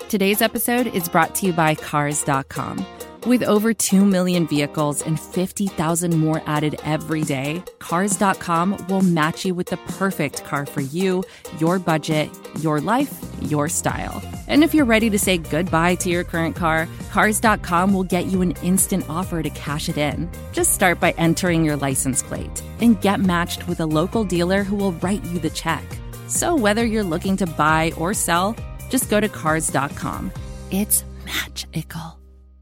Today's episode is brought to you by Cars.com. With over 2 million vehicles and 50,000 more added every day, Cars.com will match you with the perfect car for you, your budget, your life, your style. And if you're ready to say goodbye to your current car, Cars.com will get you an instant offer to cash it in. Just start by entering your license plate and get matched with a local dealer who will write you the check. So whether you're looking to buy or sell, just go to Cars.com. It's magical.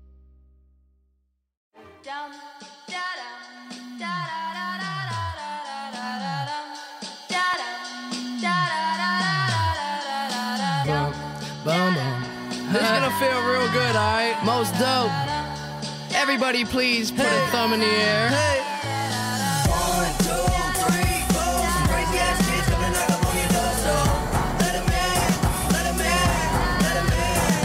This is gonna feel real good, alright? Most dope. Everybody please put a thumb in the air. Hey. 1, 2, 3, 4. Some crazy ass kids coming knock up on your door, so let 'em in, let 'em in, let 'em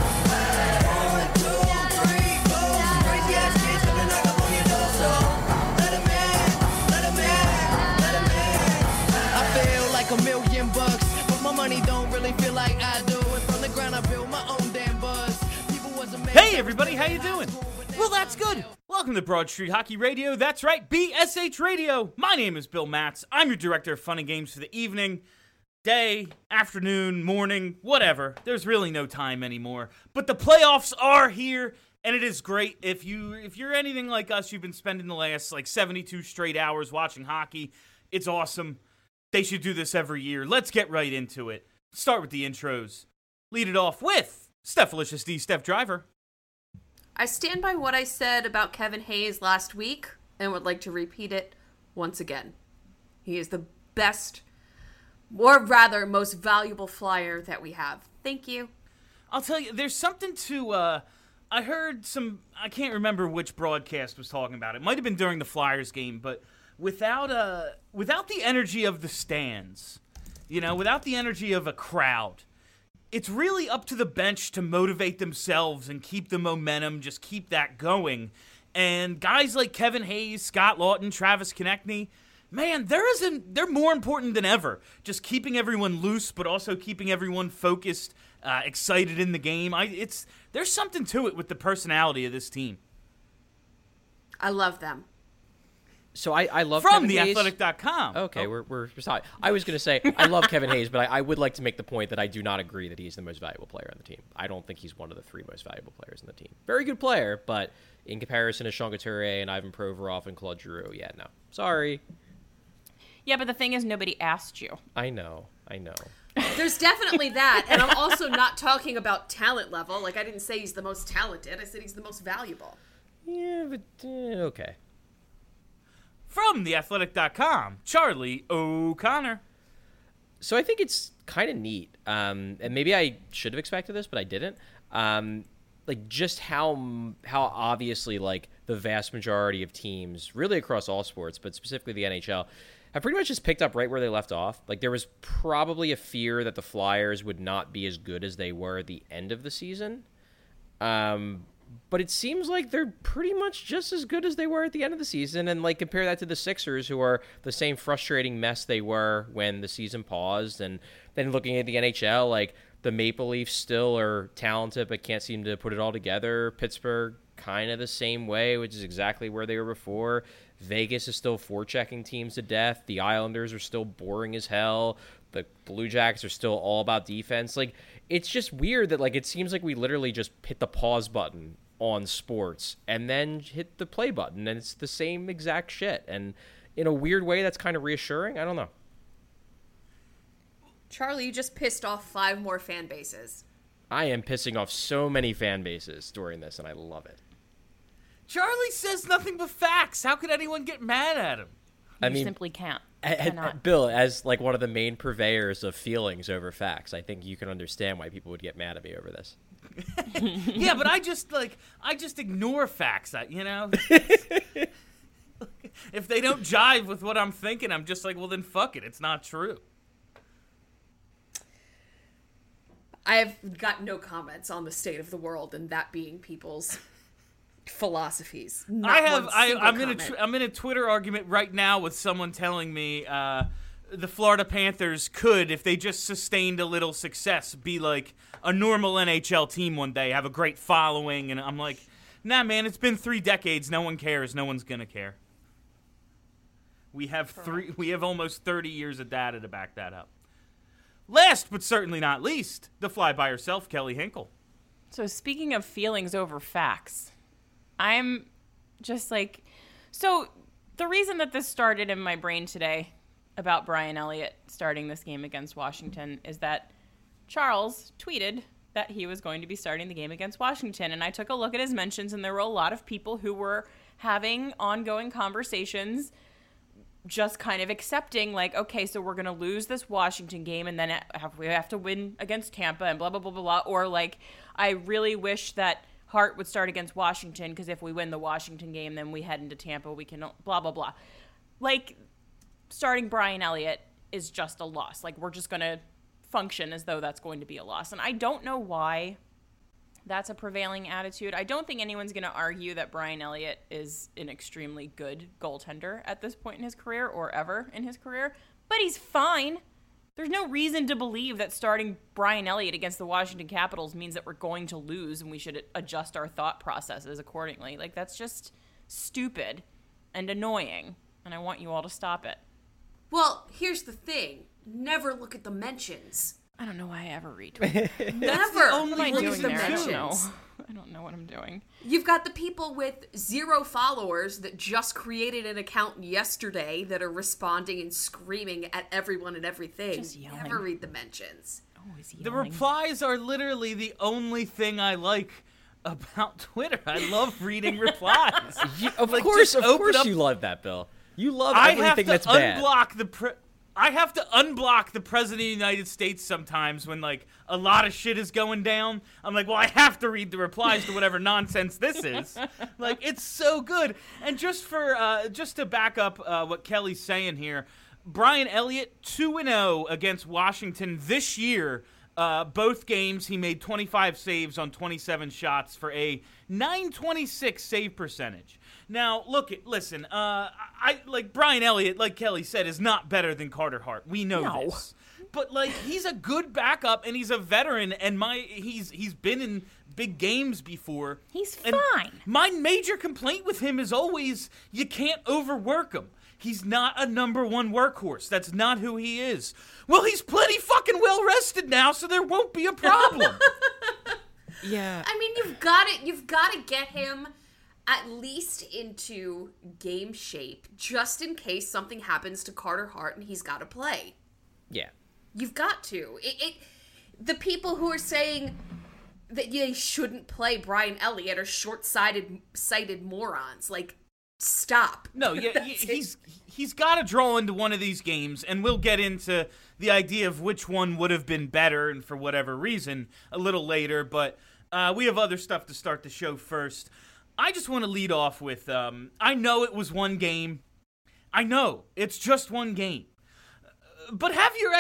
in. 1, 2, 3, 4. Some crazy ass kids coming knock up on your door, so let 'em in, let 'em in, let 'em in. I feel like $1,000,000, but my money don't really feel like I do. And from the ground I build my own damn buzz. Hey everybody, how you doing? Well, that's good. Welcome to Broad Street Hockey Radio. That's right, BSH Radio. My name is Bill Matz. I'm your director of fun and games for the evening, day, afternoon, morning, whatever. There's really no time anymore. But the playoffs are here, and it is great. If you're anything like us, you've been spending the last 72 straight hours watching hockey. It's awesome. They should do this every year. Let's get right into it. Start with the intros. Lead it off with Stephalicious D, Steph Driver. I stand by what I said about Kevin Hayes last week and would like to repeat it once again. He is the best, or rather, most valuable flyer that we have. Thank you. I'll tell you, there's something to, I heard I can't remember which broadcast was talking about it. It might have been during the Flyers game, but without the energy of the stands, without the energy of a crowd, it's really up to the bench to motivate themselves and keep the momentum, just keep that going. And guys like Kevin Hayes, Scott Lawton, Travis Konechny, man, they're more important than ever. Just keeping everyone loose, but also keeping everyone focused, excited in the game. There's something to it with the personality of this team. I love them. So I love From Kevin Hayes. theathletic.com. Okay, we're sorry. I was going to say I love Kevin Hayes, but I would like to make the point that I do not agree that he's the most valuable player on the team. I don't think he's one of the 3 most valuable players on the team. Very good player, but in comparison to Sean Couturier and Ivan Provorov and Claude Giroux, yeah, no. Sorry. Yeah, but the thing is, nobody asked you. I know. There's definitely that, and I'm also not talking about talent level. I didn't say he's the most talented. I said he's the most valuable. Yeah, but okay. From theathletic.com, Charlie O'Connor. So I think it's kind of neat, and maybe I should have expected this, but I didn't. Just how obviously the vast majority of teams, really across all sports, but specifically the NHL, have pretty much just picked up right where they left off. There was probably a fear that the Flyers would not be as good as they were at the end of the season. But it seems like they're pretty much just as good as they were at the end of the season. And compare that to the Sixers, who are the same frustrating mess they were when the season paused. And then looking at the NHL, the Maple Leafs still are talented but can't seem to put it all together. Pittsburgh, kind of the same way, which is exactly where they were before. Vegas is still forechecking teams to death. The Islanders are still boring as hell. The Blue Jackets are still all about defense. It's just weird that it seems like we literally just hit the pause button on sports and then hit the play button, and it's the same exact shit. And in a weird way, that's kind of reassuring. I don't know. Charlie, you just pissed off 5 more fan bases. I am pissing off so many fan bases during this, and I love it. Charlie says nothing but facts. How could anyone get mad at him? You simply can't. Bill, as one of the main purveyors of feelings over facts, I think you can understand why people would get mad at me over this. Yeah, but I just ignore facts. If they don't jive with what I'm thinking, I'm just well, then fuck it. It's not true. I have got no comments on the state of the world and that being people's philosophies. I'm in a Twitter argument right now with someone telling me the Florida Panthers could, if they just sustained a little success, be like a normal NHL team one day, have a great following. And I'm like, nah, man, it's been 3 decades. No one cares. No one's going to care. We have almost 30 years of data to back that up. Last but certainly not least, the fly by herself, Kelly Hinkle. So speaking of feelings over facts, I'm just like, so the reason that this started in my brain today about Brian Elliott starting this game against Washington is that Charles tweeted that he was going to be starting the game against Washington. And I took a look at his mentions, and there were a lot of people who were having ongoing conversations, just kind of accepting, like, okay, so we're going to lose this Washington game, and then we have to win against Tampa, and blah, blah, blah, blah, blah. Or, like, I really wish that Hart would start against Washington, because if we win the Washington game, then we head into Tampa, we can blah, blah, blah. Like, starting Brian Elliott is just a loss. Like, we're just going to function as though that's going to be a loss. And I don't know why that's a prevailing attitude. I don't think anyone's going to argue that Brian Elliott is an extremely good goaltender at this point in his career or ever in his career, but he's fine. There's no reason to believe that starting Brian Elliott against the Washington Capitals means that we're going to lose and we should adjust our thought processes accordingly. Like, that's just stupid and annoying, and I want you all to stop it. Well, here's the thing. Never look at the mentions. I don't know why I ever retweet. Never only look reason at the there. mentions. I don't know what I'm doing. You've got the people with 0 followers that just created an account yesterday that are responding and screaming at everyone and everything. Just yelling. Never read the mentions. Always The yelling. replies are literally the only thing I like about Twitter. I love reading replies. Of Like, course just open up- you love that, Bill. You love I have everything to that's bad. I have to unblock the President of the United States sometimes when, like, a lot of shit is going down. I'm like, well, I have to read the replies to whatever nonsense this is. Like, it's so good. And just to back up what Kelly's saying here, Brian Elliott, 2-0 against Washington this year. Both games, he made 25 saves on 27 shots for a .926 save percentage. Now, listen, I like Brian Elliott, like Kelly said, is not better than Carter Hart. We know this. But, like, he's a good backup, and he's a veteran, and he's been in big games before. He's And fine. my major complaint with him is always you can't overwork him. He's not a number 1 workhorse. That's not who he is. Well, he's plenty fucking well rested now, so there won't be a problem. Yeah. I mean, you've got to get him at least into game shape, just in case something happens to Carter Hart and he's got to play. Yeah. You've got to. The people who are saying that they shouldn't play Brian Elliott are short-sighted morons. Like, stop. No, yeah, he's got to draw into one of these games, and we'll get into the idea of which one would have been better and for whatever reason a little later, but we have other stuff to start the show first. I just want to lead off with, I know it was one game. I know, it's just one game. But have your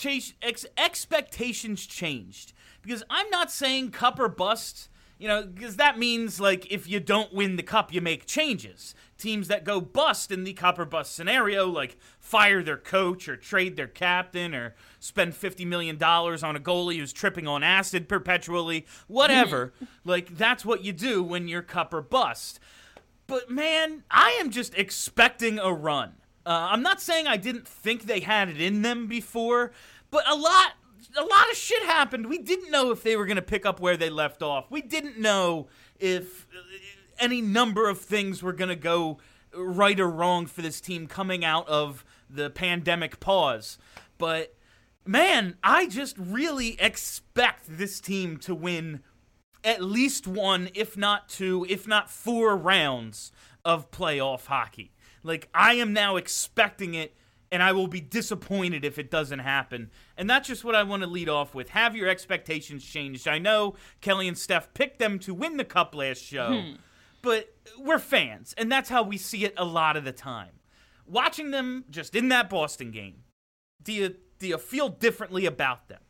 expectations changed? Because I'm not saying cup or bust, because that means, like, if you don't win the cup, you make changes. Teams that go bust in the cup or bust scenario, like fire their coach or trade their captain or spend $50 million on a goalie who's tripping on acid perpetually, whatever. Like, that's what you do when you're cup or bust. But, man, I am just expecting a run. I'm not saying I didn't think they had it in them before, but a lot of shit happened. We didn't know if they were going to pick up where they left off. We didn't know if any number of things were going to go right or wrong for this team coming out of the pandemic pause. But, man, I just really expect this team to win at least 1, if not 2, if not 4 rounds of playoff hockey. Like, I am now expecting it, and I will be disappointed if it doesn't happen. And that's just what I want to lead off with. Have your expectations changed? I know Kelly and Steph picked them to win the cup last show, but we're fans, and that's how we see it a lot of the time. Watching them just in that Boston game, do you feel differently about them?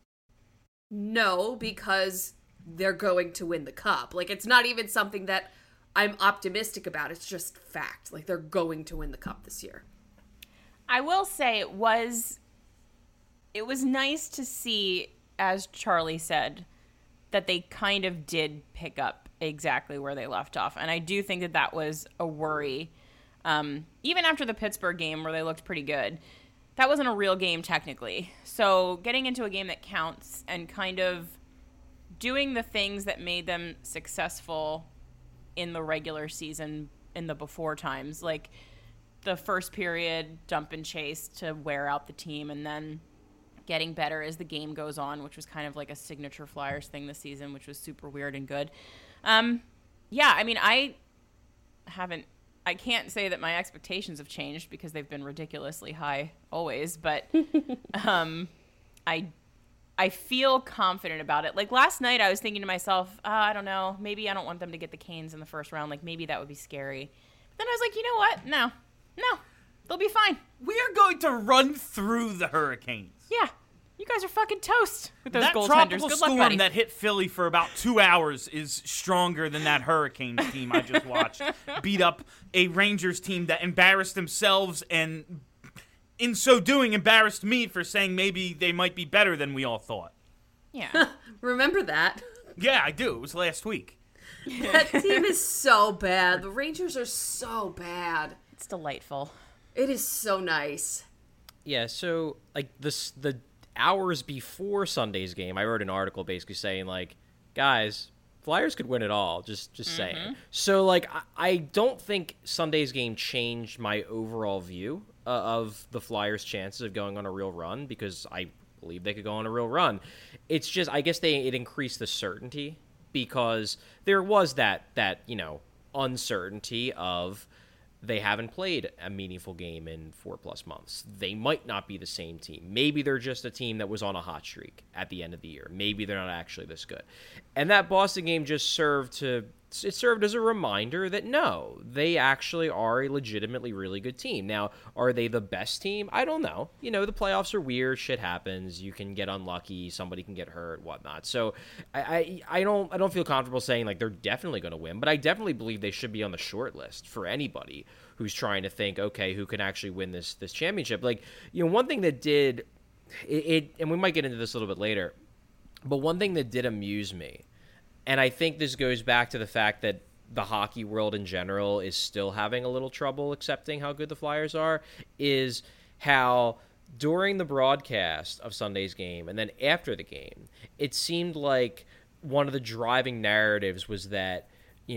No, because they're going to win the cup. Like, it's not even something that I'm optimistic about. It's just fact. Like, they're going to win the cup this year. I will say it was nice to see, as Charlie said, that they kind of did pick up exactly where they left off. And I do think that was a worry. Even after the Pittsburgh game where they looked pretty good, that wasn't a real game technically. So getting into a game that counts and kind of doing the things that made them successful in the regular season in the before times, like the first period dump and chase to wear out the team, and then getting better as the game goes on, which was kind of like a signature Flyers thing this season, which was super weird and good. Yeah, I mean, I can't say that my expectations have changed because they've been ridiculously high always, but I feel confident about it. Like last night I was thinking to myself, I don't know, maybe I don't want them to get the Canes in the first round. Like maybe that would be scary. But then I was like, you know what? No, they'll be fine. We are going to run through the Hurricanes. Yeah. You guys are fucking toast with those that goaltenders. tropical Good luck, storm buddy. that hit Philly for about 2 hours is stronger than that Hurricanes team I just watched beat up a Rangers team that embarrassed themselves and, in so doing, embarrassed me for saying maybe they might be better than we all thought. Yeah. Remember that? Yeah, I do. It was last week. That team is so bad. The Rangers are so bad. It's delightful. It is so nice. Yeah, so like the hours before Sunday's game, I wrote an article basically saying like, guys, Flyers could win it all. Just saying. So like, I don't think Sunday's game changed my overall view of the Flyers' chances of going on a real run, because I believe they could go on a real run. It's just, I guess it increased the certainty, because there was that uncertainty of they haven't played a meaningful game in 4+ months. They might not be the same team. Maybe they're just a team that was on a hot streak at the end of the year. Maybe they're not actually this good. And that Boston game just served as a reminder that no, they actually are a legitimately really good team. Now, are they the best team? I don't know. The playoffs are weird. Shit happens. You can get unlucky. Somebody can get hurt, whatnot. So I don't feel comfortable saying like they're definitely going to win, but I definitely believe they should be on the short list for anybody who's trying to think, okay, who can actually win this championship. Like, one thing that did it, and we might get into this a little bit later, but one thing that did amuse me, and I think this goes back to the fact that the hockey world in general is still having a little trouble accepting how good the Flyers are, is how during the broadcast of Sunday's game and then after the game, it seemed like one of the driving narratives was that,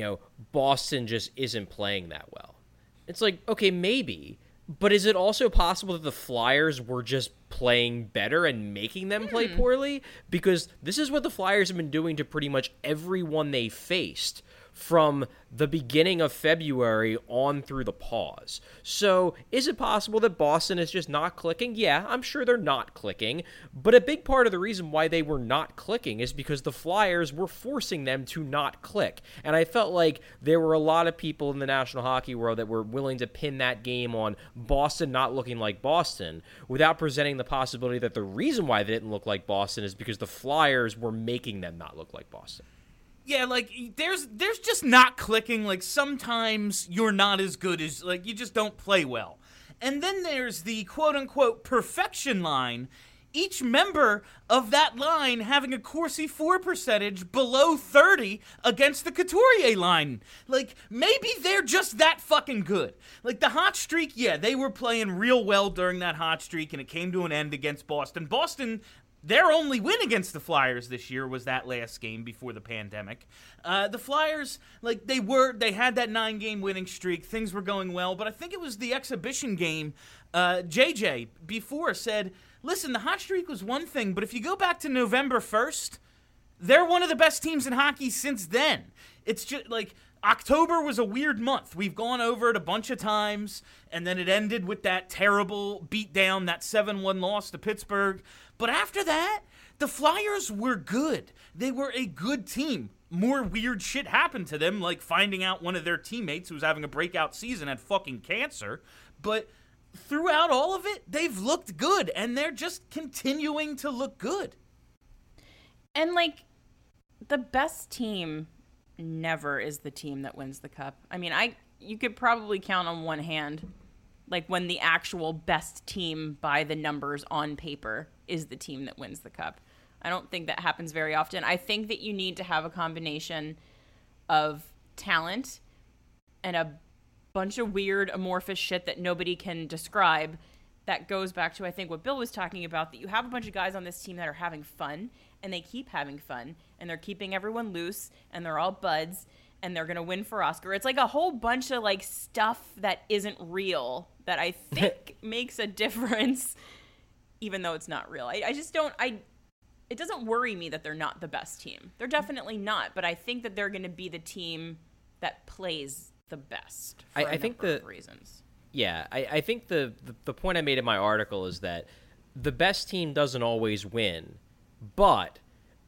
Boston just isn't playing that well. It's like, okay, maybe, but is it also possible that the Flyers were just playing better and making them play poorly? Because this is what the Flyers have been doing to pretty much everyone they faced from the beginning of February on through the pause. So is it possible that Boston is just not clicking? Yeah, I'm sure they're not clicking, but a big part of the reason why they were not clicking is because the Flyers were forcing them to not click. And I felt like there were a lot of people in the National Hockey world that were willing to pin that game on Boston not looking like Boston without presenting the possibility that the reason why they didn't look like Boston is because the Flyers were making them not look like Boston. Yeah, like, there's just not clicking. Like, sometimes you're not as good as, like, you just don't play well. And then there's the quote-unquote perfection line, each member of that line having a Corsi for percentage below 30 against the Couturier line. Like, maybe they're just that fucking good. Like, the hot streak, yeah, they were playing real well during that hot streak, and it came to an end against Boston. Boston, their only win against the Flyers this year was that last game before the pandemic. The Flyers, like, they had that 9-game winning streak. Things were going well, but I think it was the exhibition game. JJ before said, listen, the hot streak was one thing, but if you go back to November 1st, they're one of the best teams in hockey since then. It's just, like, October was a weird month. We've gone over it a bunch of times, and then it ended with that terrible beatdown, that 7-1 loss to Pittsburgh. But after that, the Flyers were good. They were a good team. More weird shit happened to them, like finding out one of their teammates who was having a breakout season had fucking cancer. But throughout all of it, they've looked good, and they're just continuing to look good. And, like, the best team never is the team that wins the cup. I mean, you could probably count on one hand Like when the actual best team by the numbers on paper is the team that wins the cup. I don't think that happens very often. I think that you need to have a combination of talent and a bunch of weird amorphous shit that nobody can describe. That goes back to, I think, what Bill was talking about, that you have a bunch of guys on this team that are having fun, and they keep having fun, and they're keeping everyone loose, and they're all buds, and they're going to win for Oscar. It's like a whole bunch of like stuff that isn't real that I think makes a difference, even though it's not real. I just don't, it doesn't worry me that they're not the best team. They're definitely not, but I think that they're going to be the team that plays the best for a number of reasons. Yeah, I think the point I made in my article is that the best team doesn't always win, but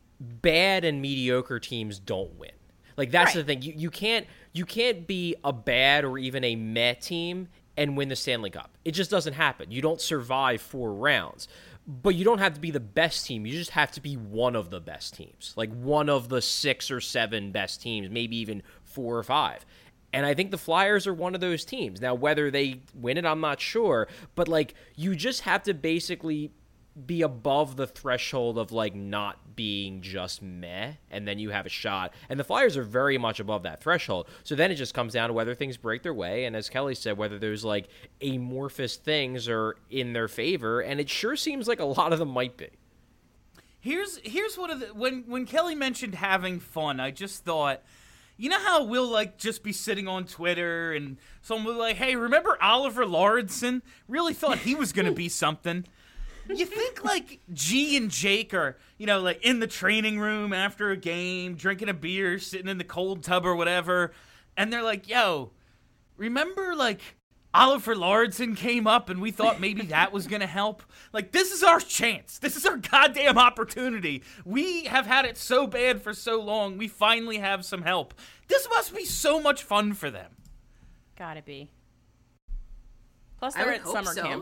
bad and mediocre teams don't win. Like, that's the thing. You can't be a bad or even a meh team and win the Stanley Cup. It just doesn't happen. You don't survive 4 rounds. But you don't have to be the best team. You just have to be one of the best teams. Like one of the 6 or 7 best teams, maybe even 4 or 5. And I think the Flyers are one of those teams. Now, whether they win it, I'm not sure. But, like, you just have to basically be above the threshold of, like, not being just meh, and then you have a shot. And the Flyers are very much above that threshold. So then it just comes down to whether things break their way, and as Kelly said, whether those, like, amorphous things are in their favor, and it sure seems like a lot of them might be. Here's what when Kelly mentioned having fun, I just thought, you know how we'll, like, just be sitting on Twitter and someone will be like, hey, remember Oliver Lauridsen? Really thought he was going to be something. You think, like, G and Jake are, you know, like, in the training room after a game, drinking a beer, sitting in the cold tub or whatever, and they're like, yo, remember, like, Oliver Lauridsen came up and we thought maybe that was going to help? Like, this is our chance. This is our goddamn opportunity. We have had it so bad for so long. We finally have some help. This must be so much fun for them. Gotta be. Plus, they're at summer camp.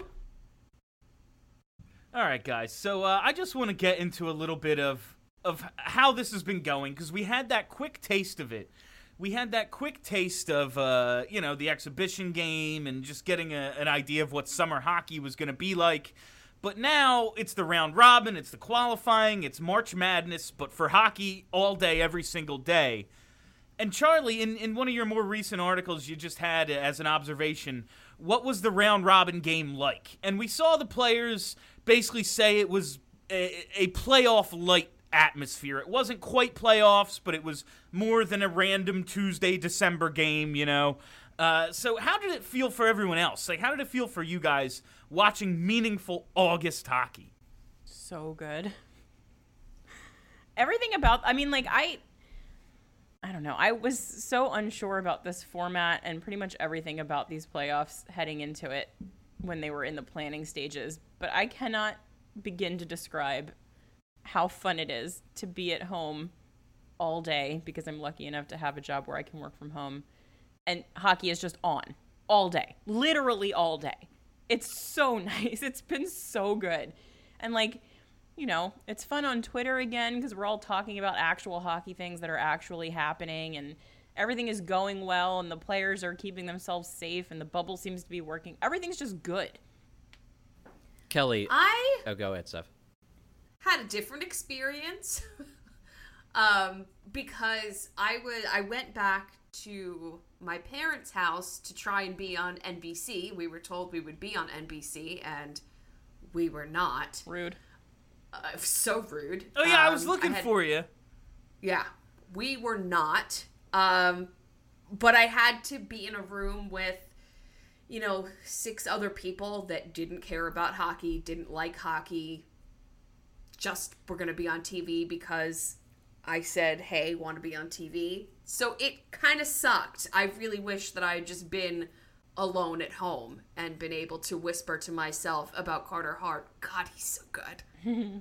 All right, guys. So I just want to get into a little bit of how this has been going, because we had that quick taste of it. We had that quick taste of, the exhibition game and just getting an idea of what summer hockey was going to be like. But now it's the round robin, it's the qualifying, it's March Madness, but for hockey all day, every single day. And Charlie, in one of your more recent articles you just had as an observation, what was the round robin game like? And we saw the players basically say it was a playoff light atmosphere. It wasn't quite playoffs, but it was more than a random Tuesday, December game, you know. So how did it feel for everyone else? Like, how did it feel for you guys watching meaningful August hockey? So good. Everything about, I mean, like, I don't know. I was so unsure about this format and pretty much everything about these playoffs heading into it when they were in the planning stages. But I cannot begin to describe how fun it is to be at home all day, because I'm lucky enough to have a job where I can work from home, and hockey is just on all day, literally all day. It's so nice. It's been so good. And, like, you know, it's fun on Twitter again because we're all talking about actual hockey things that are actually happening, and everything is going well, and the players are keeping themselves safe, and the bubble seems to be working. Everything's just good. Kelly. Oh, go ahead, Steph. Had a different experience because I went back to my parents' house to try and be on NBC. We were told we would be on NBC, and we were not. Rude. So rude. Oh, yeah, I was looking for you. Yeah, we were not. But I had to be in a room with, 6 other people that didn't care about hockey, didn't like hockey, just were going to be on TV because I said, hey, want to be on TV. So it kind of sucked. I really wish that I had just been alone at home and been able to whisper to myself about Carter Hart. God, he's so good.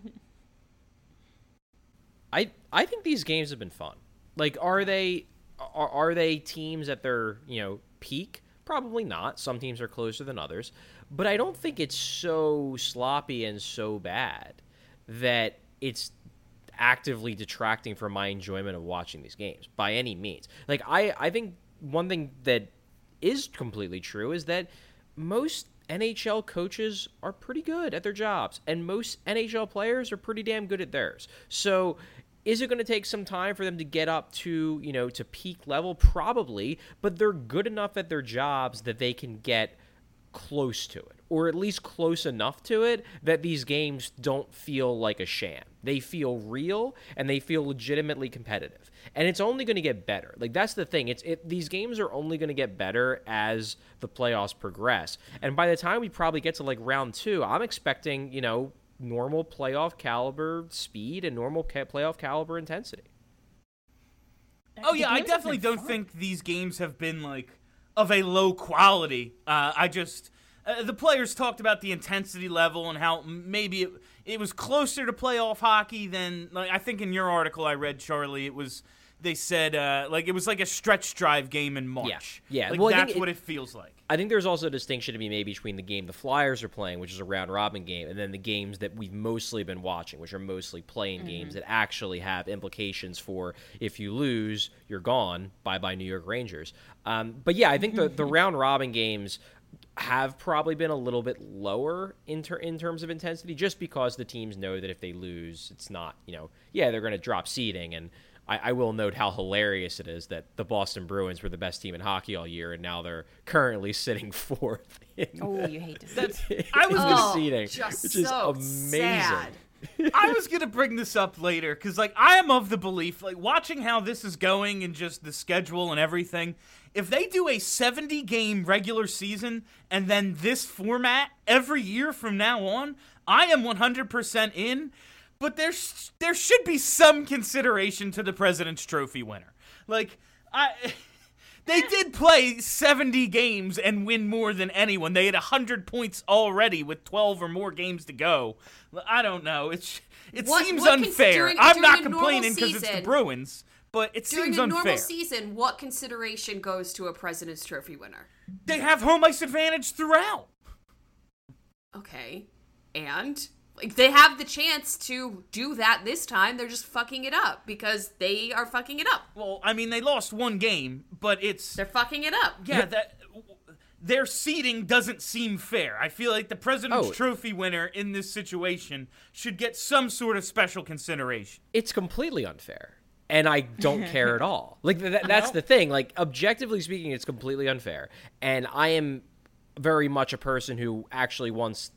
I think these games have been fun. Like, are they teams at their, peak? Probably not. Some teams are closer than others. But I don't think it's so sloppy and so bad that it's actively detracting from my enjoyment of watching these games by any means. Like, I think one thing that is completely true is that most NHL coaches are pretty good at their jobs, and most NHL players are pretty damn good at theirs. So is it going to take some time for them to get up to, to peak level? Probably, but they're good enough at their jobs that they can get close to it, or at least close enough to it that these games don't feel like a sham. They feel real, and they feel legitimately competitive. And it's only going to get better. Like, that's the thing. These games are only going to get better as the playoffs progress. And by the time we probably get to, like, round 2, I'm expecting, normal playoff caliber speed and normal playoff caliber intensity. Oh, yeah, I definitely don't think these games have been, like, of a low quality. The players talked about the intensity level and how maybe it was closer to playoff hockey than, like, I think in your article I read, Charlie, they said it was like a stretch drive game in March. Yeah. Like, well, that's what it feels like. I think there's also a distinction to be made between the game the Flyers are playing, which is a round-robin game, and then the games that we've mostly been watching, which are mostly playing games that actually have implications for if you lose, you're gone. Bye-bye New York Rangers. But yeah, I think the round-robin games have probably been a little bit lower in terms of intensity, just because the teams know that if they lose, it's not, they're going to drop seeding. And I will note how hilarious it is that the Boston Bruins were the best team in hockey all year, and now they're currently sitting 4th. You hate to see that. I was the seeding, just which is so amazing. sad. I was going to bring this up later because, like, I am of the belief, like, watching how this is going and just the schedule and everything, if they do a 70-game regular season and then this format every year from now on, I am 100% in, but there should be some consideration to the President's Trophy winner. Like, they did play 70 games and win more than anyone. They had 100 points already with 12 or more games to go. I don't know. It seems unfair. I'm not complaining because it's the Bruins, but it seems unfair. During a normal season, what consideration goes to a President's Trophy winner? They have home ice advantage throughout. Okay. And? Like, they have the chance to do that this time. They're just fucking it up because they are fucking it up. Well, I mean, they lost one game, but they're fucking it up. Yeah, their seeding doesn't seem fair. I feel like the President's Trophy winner in this situation should get some sort of special consideration. It's completely unfair, and I don't care at all. Like, that's the thing. Like, objectively speaking, it's completely unfair, and I am very much a person who actually wants...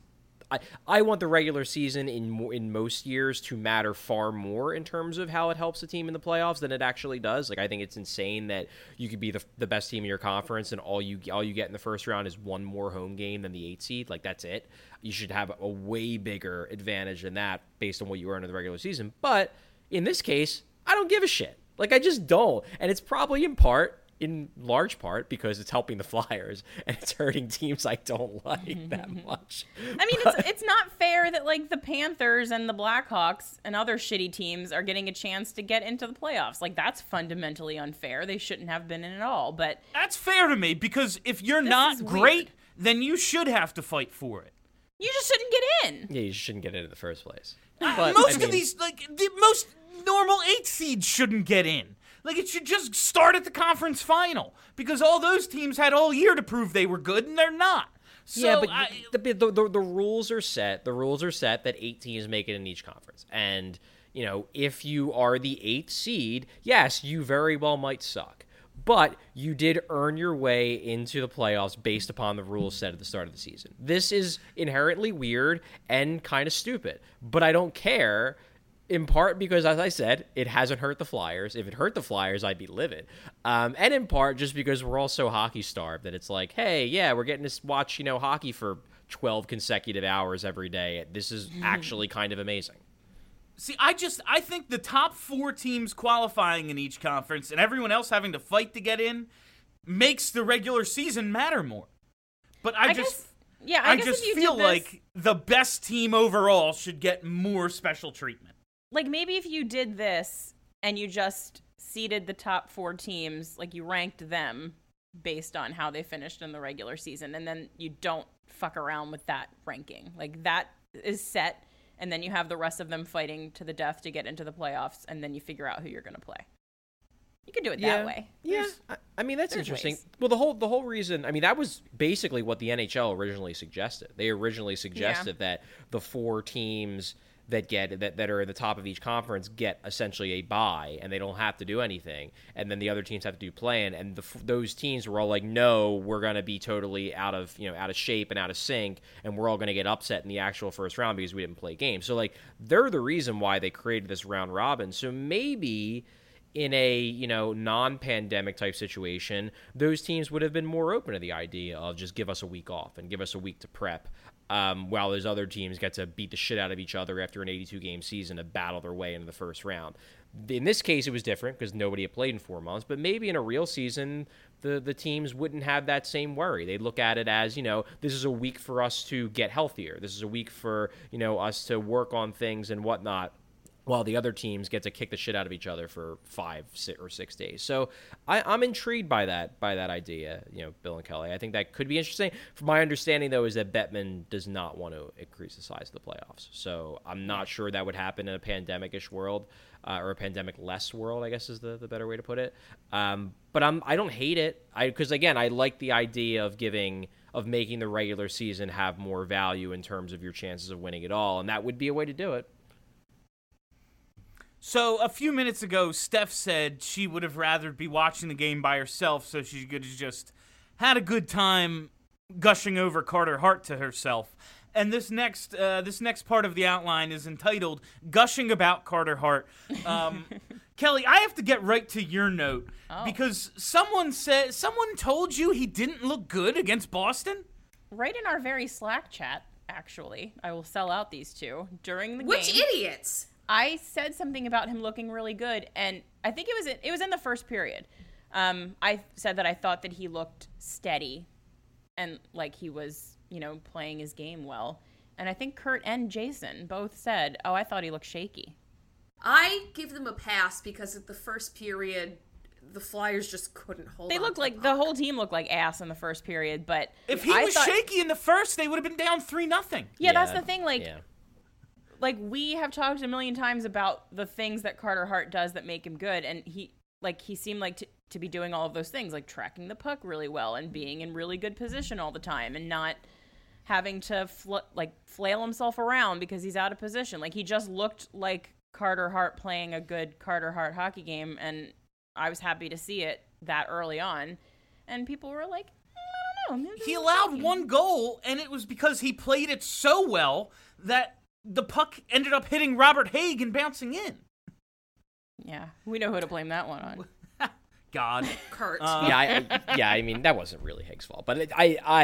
I want the regular season in most years to matter far more in terms of how it helps a team in the playoffs than it actually does. Like, I think it's insane that you could be the best team in your conference and all you get in the first round is one more home game than the 8 seed. Like, that's it. You should have a way bigger advantage than that based on what you earn in the regular season. But in this case, I don't give a shit. Like, I just don't. And it's probably in large part because it's helping the Flyers and it's hurting teams I don't like that much. I mean, it's not fair that, like, the Panthers and the Blackhawks and other shitty teams are getting a chance to get into the playoffs. Like, that's fundamentally unfair. They shouldn't have been in at all. But that's fair to me because if you're not great, then you should have to fight for it. You just shouldn't get in. Yeah, you shouldn't get in the first place. But most of these, like, the most normal 8 seeds shouldn't get in. Like, it should just start at the conference final because all those teams had all year to prove they were good, and they're not. So yeah, but the rules are set. The rules are set that 8 teams make it in each conference. And, if you are the 8th seed, yes, you very well might suck. But you did earn your way into the playoffs based upon the rules set at the start of the season. This is inherently weird and kind of stupid, but I don't care. In part because, as I said, it hasn't hurt the Flyers. If it hurt the Flyers, I'd be livid. And in part just because we're all so hockey-starved that it's like, hey, yeah, we're getting to watch, hockey for 12 consecutive hours every day. This is actually kind of amazing. See, I think the top 4 teams qualifying in each conference and everyone else having to fight to get in makes the regular season matter more. But I just feel like the best team overall should get more special treatment. Like, maybe if you did this and you just seeded the top 4 teams, like, you ranked them based on how they finished in the regular season, and then you don't fuck around with that ranking. Like, that is set, and then you have the rest of them fighting to the death to get into the playoffs, and then you figure out who you're going to play. You could do it that way. Yeah, I mean that's interesting. ways. Well, the whole reason, I mean, that was basically what the NHL originally suggested. They originally suggested that the 4 teams that are at the top of each conference get essentially a bye, and they don't have to do anything, and then the other teams have to do play-in, and those teams were all like, no, we're going to be totally out of shape and out of sync, and we're all going to get upset in the actual first round because we didn't play games. So like they're the reason why they created this round robin. So maybe in a non-pandemic type situation, those teams would have been more open to the idea of just give us a week off and give us a week to prep, while those other teams get to beat the shit out of each other after an 82-game season to battle their way into the first round. In this case, it was different because nobody had played in 4 months, but maybe in a real season, the teams wouldn't have that same worry. They'd look at it as, this is a week for us to get healthier. This is a week for, us to work on things and whatnot, while the other teams get to kick the shit out of each other for 5 or 6 days. So I'm intrigued by that idea, Bill and Kelly. I think that could be interesting. From my understanding, though, is that Bettman does not want to increase the size of the playoffs. So I'm not sure that would happen in a pandemic-ish world, or a pandemic-less world, I guess is the better way to put it. But I don't hate it, because again, I like the idea of making the regular season have more value in terms of your chances of winning it all, and that would be a way to do it. So a few minutes ago, Steph said she would have rather be watching the game by herself, so she could have just had a good time gushing over Carter Hart to herself. And this next part of the outline is entitled "Gushing About Carter Hart." Kelly, I have to get right to your note because someone told you he didn't look good against Boston. Right in our very Slack chat, actually, I will sell out these two during the game. Which idiots? I said something about him looking really good, and I think it was in the first period. I said that I thought that he looked steady and like he was, playing his game well. And I think Kurt and Jason both said, "Oh, I thought he looked shaky." I give them a pass because at the first period, the Flyers just couldn't hold. They looked like the whole team looked like ass in the first period, but if he was shaky in the first, they would have been down 3-0. Yeah, that's the thing. Like we have talked a million times about the things that Carter Hart does that make him good, and he seemed like to be doing all of those things, like tracking the puck really well and being in really good position all the time and not having to flail himself around because he's out of position. Like he just looked like Carter Hart playing a good Carter Hart hockey game, and I was happy to see it that early on. And people were like, I don't know. He allowed one goal, and it was because he played it so well that the puck ended up hitting Robert Haig and bouncing in. Yeah, we know who to blame that one on. God. Kurt. I mean, that wasn't really Haig's fault, but No.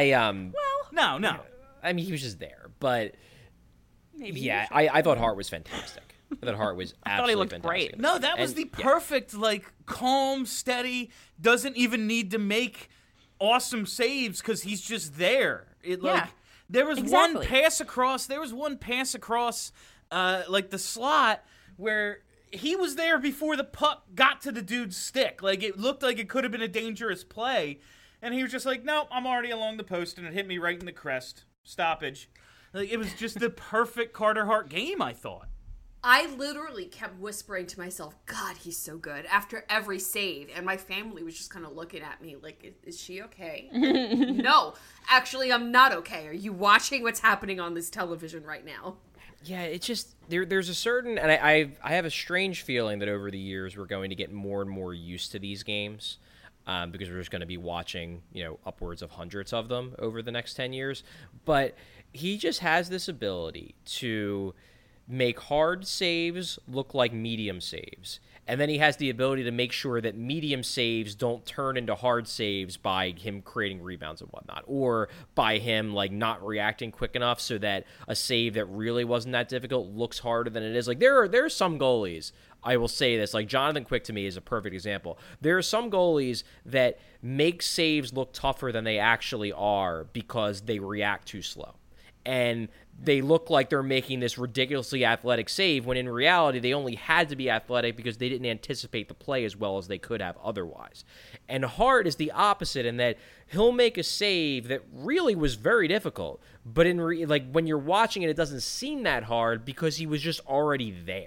I mean, he was just there, but Maybe I thought Hart was fantastic. I thought Hart was absolutely fantastic. Great. No, that was the perfect, calm, steady, doesn't even need to make awesome saves because he's just there. There was one pass across. There was one pass across, the slot where he was there before the puck got to the dude's stick. Like it looked like it could have been a dangerous play, and he was just like, "Nope, I'm already along the post," and it hit me right in the crest. Stoppage. Like it was just the perfect Carter Hart game. I thought. I literally kept whispering to myself, "God, he's so good," after every save. And my family was just kind of looking at me like, is she okay? No, actually, I'm not okay. Are you watching what's happening on this television right now? Yeah, it's just, there's a certain, and I have a strange feeling that over the years we're going to get more and more used to these games. Because we're just going to be watching, upwards of hundreds of them over the next 10 years. But he just has this ability to make hard saves look like medium saves. And then he has the ability to make sure that medium saves don't turn into hard saves by him creating rebounds and whatnot, or by him not reacting quick enough so that a save that really wasn't that difficult looks harder than it is. Like there are some goalies, I will say this, like Jonathan Quick to me is a perfect example. There are some goalies that make saves look tougher than they actually are because they react too slow. And they look like they're making this ridiculously athletic save when in reality they only had to be athletic because they didn't anticipate the play as well as they could have otherwise. And Hart is the opposite in that he'll make a save that really was very difficult, but when you're watching it, it doesn't seem that hard because he was just already there.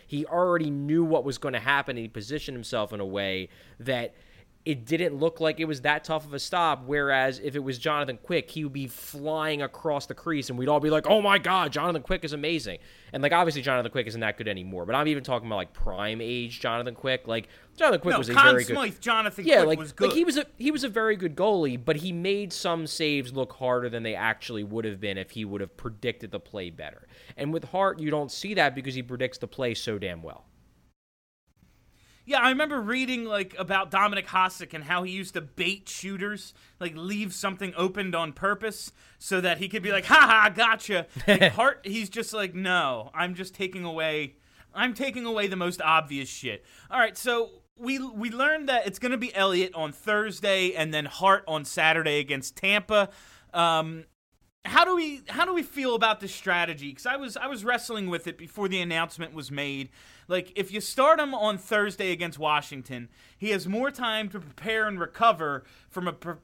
he already knew what was going to happen, and he positioned himself in a way that it didn't look like it was that tough of a stop, whereas if it was Jonathan Quick, he would be flying across the crease, and we'd all be like, oh my God, Jonathan Quick is amazing. And, like, obviously Jonathan Quick isn't that good anymore, but I'm even talking about, like, prime age Jonathan Quick. Like, Jonathan Quick was a very good... Smythe, Jonathan Quick was good. Like, he was a very good goalie, but he made some saves look harder than they actually would have been if he would have predicted the play better. And with Hart, you don't see that because he predicts the play so damn well. Yeah, I remember reading, like, about Dominic Hasek and how he used to bait shooters, like, leave something opened on purpose so that he could be like, ha, gotcha. Like, Hart, he's just like, no, I'm taking away the most obvious shit. All right, so we learned that it's going to be Elliott on Thursday and then Hart on Saturday against Tampa. How do we feel about this strategy? Because I was wrestling with it before the announcement was made. Like, if you start him on Thursday against Washington, he has more time to prepare and recover from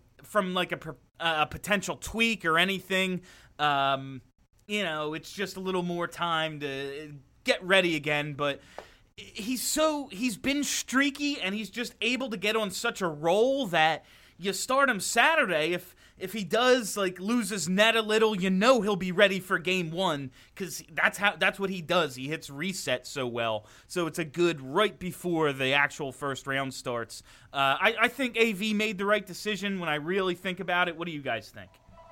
a potential tweak or anything. It's just a little more time to get ready again. But he's been streaky, and he's just able to get on such a roll that you start him Saturday. If he does, like, lose his net a little, he'll be ready for game one, because that's what he does. He hits reset so well. So it's a good right before the actual first round starts. I think AV made the right decision when I really think about it. What do you guys think?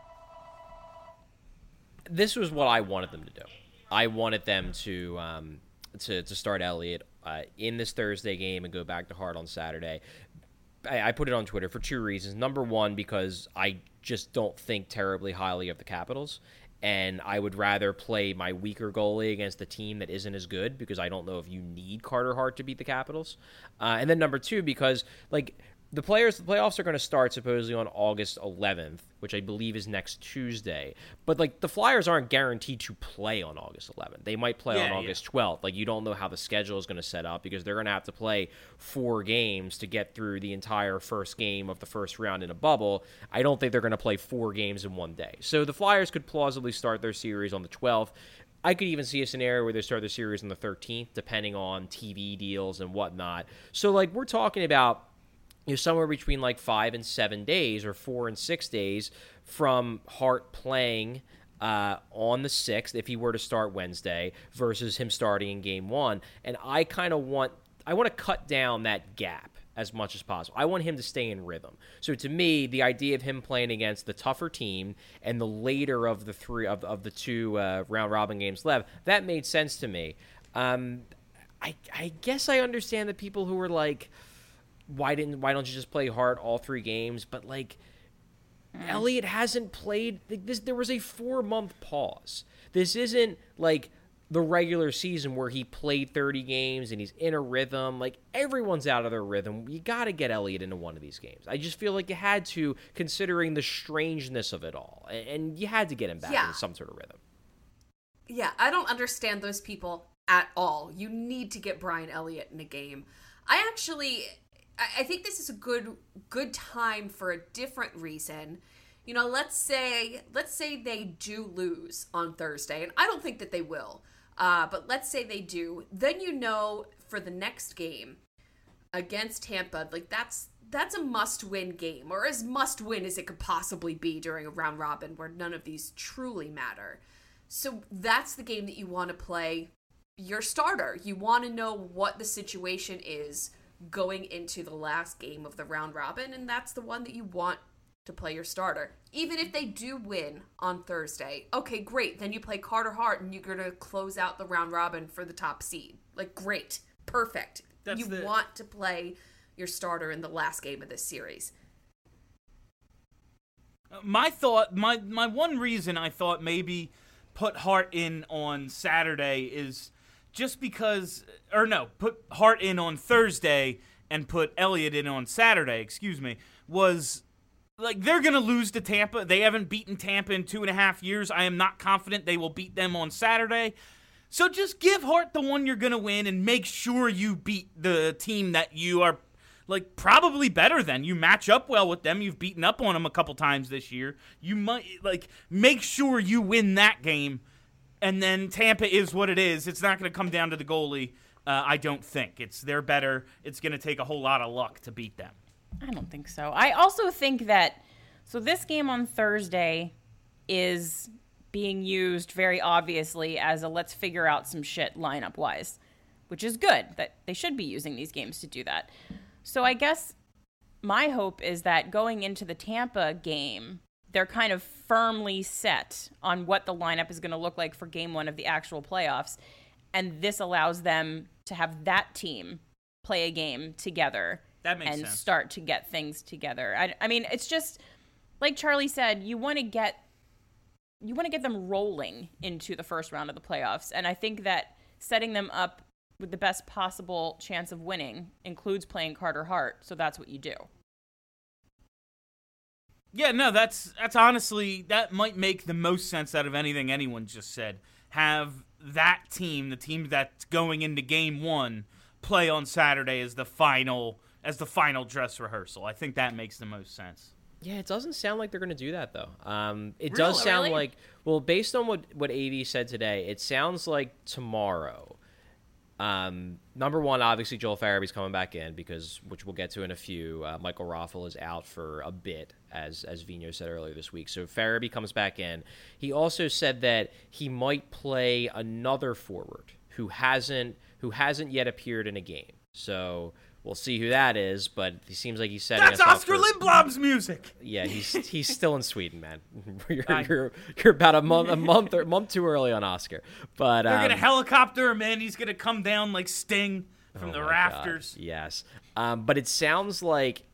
This was what I wanted them to do. I wanted them to start Elliott in this Thursday game and go back to Hart on Saturday. I put it on Twitter for two reasons. Number one, because I just don't think terribly highly of the Capitals, and I would rather play my weaker goalie against the team that isn't as good, because I don't know if you need Carter Hart to beat the Capitals. And then number two, because, like, the playoffs are going to start supposedly on August 11th, which I believe is next Tuesday. But, like, the Flyers aren't guaranteed to play on August 11th. They might play on August 12th. Like, you don't know how the schedule is going to set up, because they're going to have to play 4 games to get through the entire first game of the first round in a bubble. I don't think they're going to play 4 games in one day. So the Flyers could plausibly start their series on the 12th. I could even see a scenario where they start the series on the 13th, depending on TV deals and whatnot. So, like, we're talking about somewhere between like 5 and 7 days, or 4 and 6 days from Hart playing on the 6th, if he were to start Wednesday, versus him starting in game 1. And I want to cut down that gap as much as possible. I want him to stay in rhythm. So to me, the idea of him playing against the tougher team and the later of the two round robin games left, that made sense to me. I guess I understand the people who were like, why don't you just play Hart all 3 games? But, like, Elliott hasn't played this. There was a 4-month pause. This isn't like the regular season where he played 30 games and he's in a rhythm. Like, everyone's out of their rhythm. You got to get Elliott into one of these games. I just feel like you had to, considering the strangeness of it all, and you had to get him back in some sort of rhythm. Yeah, I don't understand those people at all. You need to get Brian Elliott in a game. I think this is a good time for a different reason. Let's say they do lose on Thursday, and I don't think that they will. But let's say they do. Then for the next game against Tampa, like that's a must-win game, or as must-win as it could possibly be during a round robin where none of these truly matter. So that's the game that you want to play your starter. You want to know what the situation is going into the last game of the round robin, and that's the one that you want to play your starter. Even if they do win on Thursday, okay, great. Then you play Carter Hart, and you're going to close out the round robin for the top seed. Like, great. Perfect. Want to play your starter in the last game of this series. My one reason I thought maybe put Hart in on Saturday is just because, put Hart in on Thursday and put Elliott in on Saturday, was, like, they're going to lose to Tampa. They haven't beaten Tampa in 2.5 years. I am not confident they will beat them on Saturday. So just give Hart the one you're going to win and make sure you beat the team that you are, like, probably better than. You match up well with them. You've beaten up on them a couple times this year. You might, like, make sure you win that game. And then Tampa is what it is. It's not going to come down to the goalie. I don't think. They're better. It's going to take a whole lot of luck to beat them. I don't think so. I also think that, so this game on Thursday is being used very obviously as a let's figure out some shit lineup-wise, which is good. That they should be using these games to do that. So I guess my hope is that going into the Tampa game, they're kind of firmly set on what the lineup is going to look like for game one of the actual playoffs. And this allows them to have that team play a game together That makes and sense. start to get things together. I mean, it's just like Charlie said, you want to get them rolling into the first round of the playoffs. And I think that setting them up with the best possible chance of winning includes playing Carter Hart. So that's what you do. Yeah, no, that's honestly, that might make the most sense out of anything anyone just said. Have that team, the team that's going into game one, play on Saturday as the final dress rehearsal. I think that makes the most sense. Yeah, it doesn't sound like they're going to do that, though. It Really? does sound Really? like, well, based on what AV said today, it sounds like tomorrow. Number one, obviously, Joel Farabee's coming back in which we'll get to in a few. Michael Raffel is out for a bit, as Vino said earlier this week. So Farabee comes back in. He also said that he might play another forward who hasn't yet appeared in a game. So we'll see who that is, but he seems like he's setting That's us up Oscar for- Lindblom's music. Yeah, he's still in Sweden, man. You're about a month too early on Oscar. But They're gonna helicopter him in. He's gonna come down like Sting from the my rafters. God, yes. But it sounds like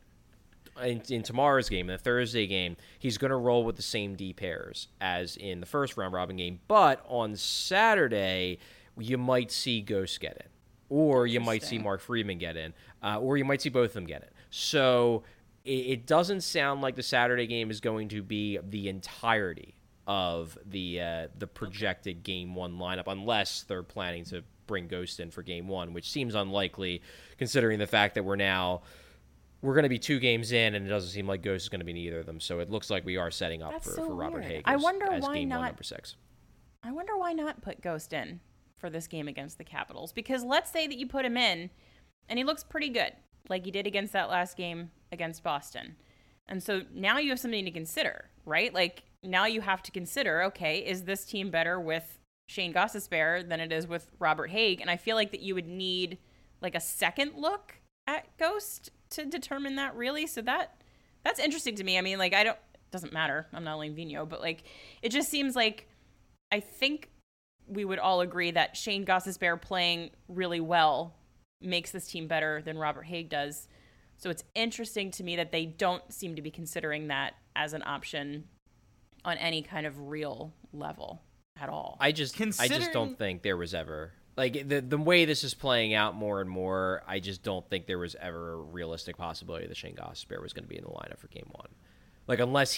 in tomorrow's game, in the Thursday game, he's going to roll with the same D pairs as in the first round robin game. But on Saturday, you might see Ghost get in, or you might see Mark Friedman get in, or you might see both of them get in. So it doesn't sound like the Saturday game is going to be the entirety of the projected game one lineup, unless they're planning to bring Ghost in for game one, which seems unlikely considering the fact that we're going to be 2 games in, and it doesn't seem like Ghost is going to be in either of them. So it looks like we are setting up for Robert weird. Haig I as wonder why game not. one, number 6. I wonder why not put Ghost in for this game against the Capitals. Because let's say that you put him in, and he looks pretty good, like he did against that last game against Boston. And so now you have something to consider, right? Like, now you have to consider, okay, is this team better with Shane Gostisbehere than it is with Robert Haig? And I feel like that you would need, like, a second look at Ghost to determine that, really. So that's interesting to me. I mean, like, it doesn't matter. I'm not only Vino, but, like, it just seems like I think we would all agree that Shane Gostisbehere playing really well makes this team better than Robert Haig does. So it's interesting to me that they don't seem to be considering that as an option on any kind of real level at all. I just don't think there was ever, like, the way this is playing out more and more, I just don't think there was ever a realistic possibility that Shane Gostisbehere was going to be in the lineup for game one. Like, unless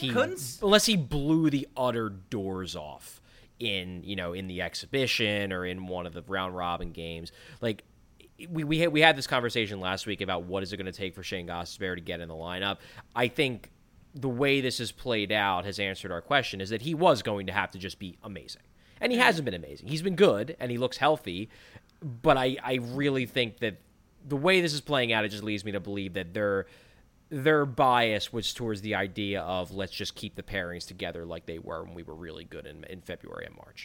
he blew the utter doors off in the exhibition or in one of the round robin games. Like, we had this conversation last week about what is it going to take for Shane Gostisbehere to get in the lineup. I think the way this has played out has answered our question, is that he was going to have to just be amazing. And he hasn't been amazing. He's been good, and he looks healthy. But I really think that the way this is playing out, it just leads me to believe that their bias was towards the idea of let's just keep the pairings together like they were when we were really good in February and March.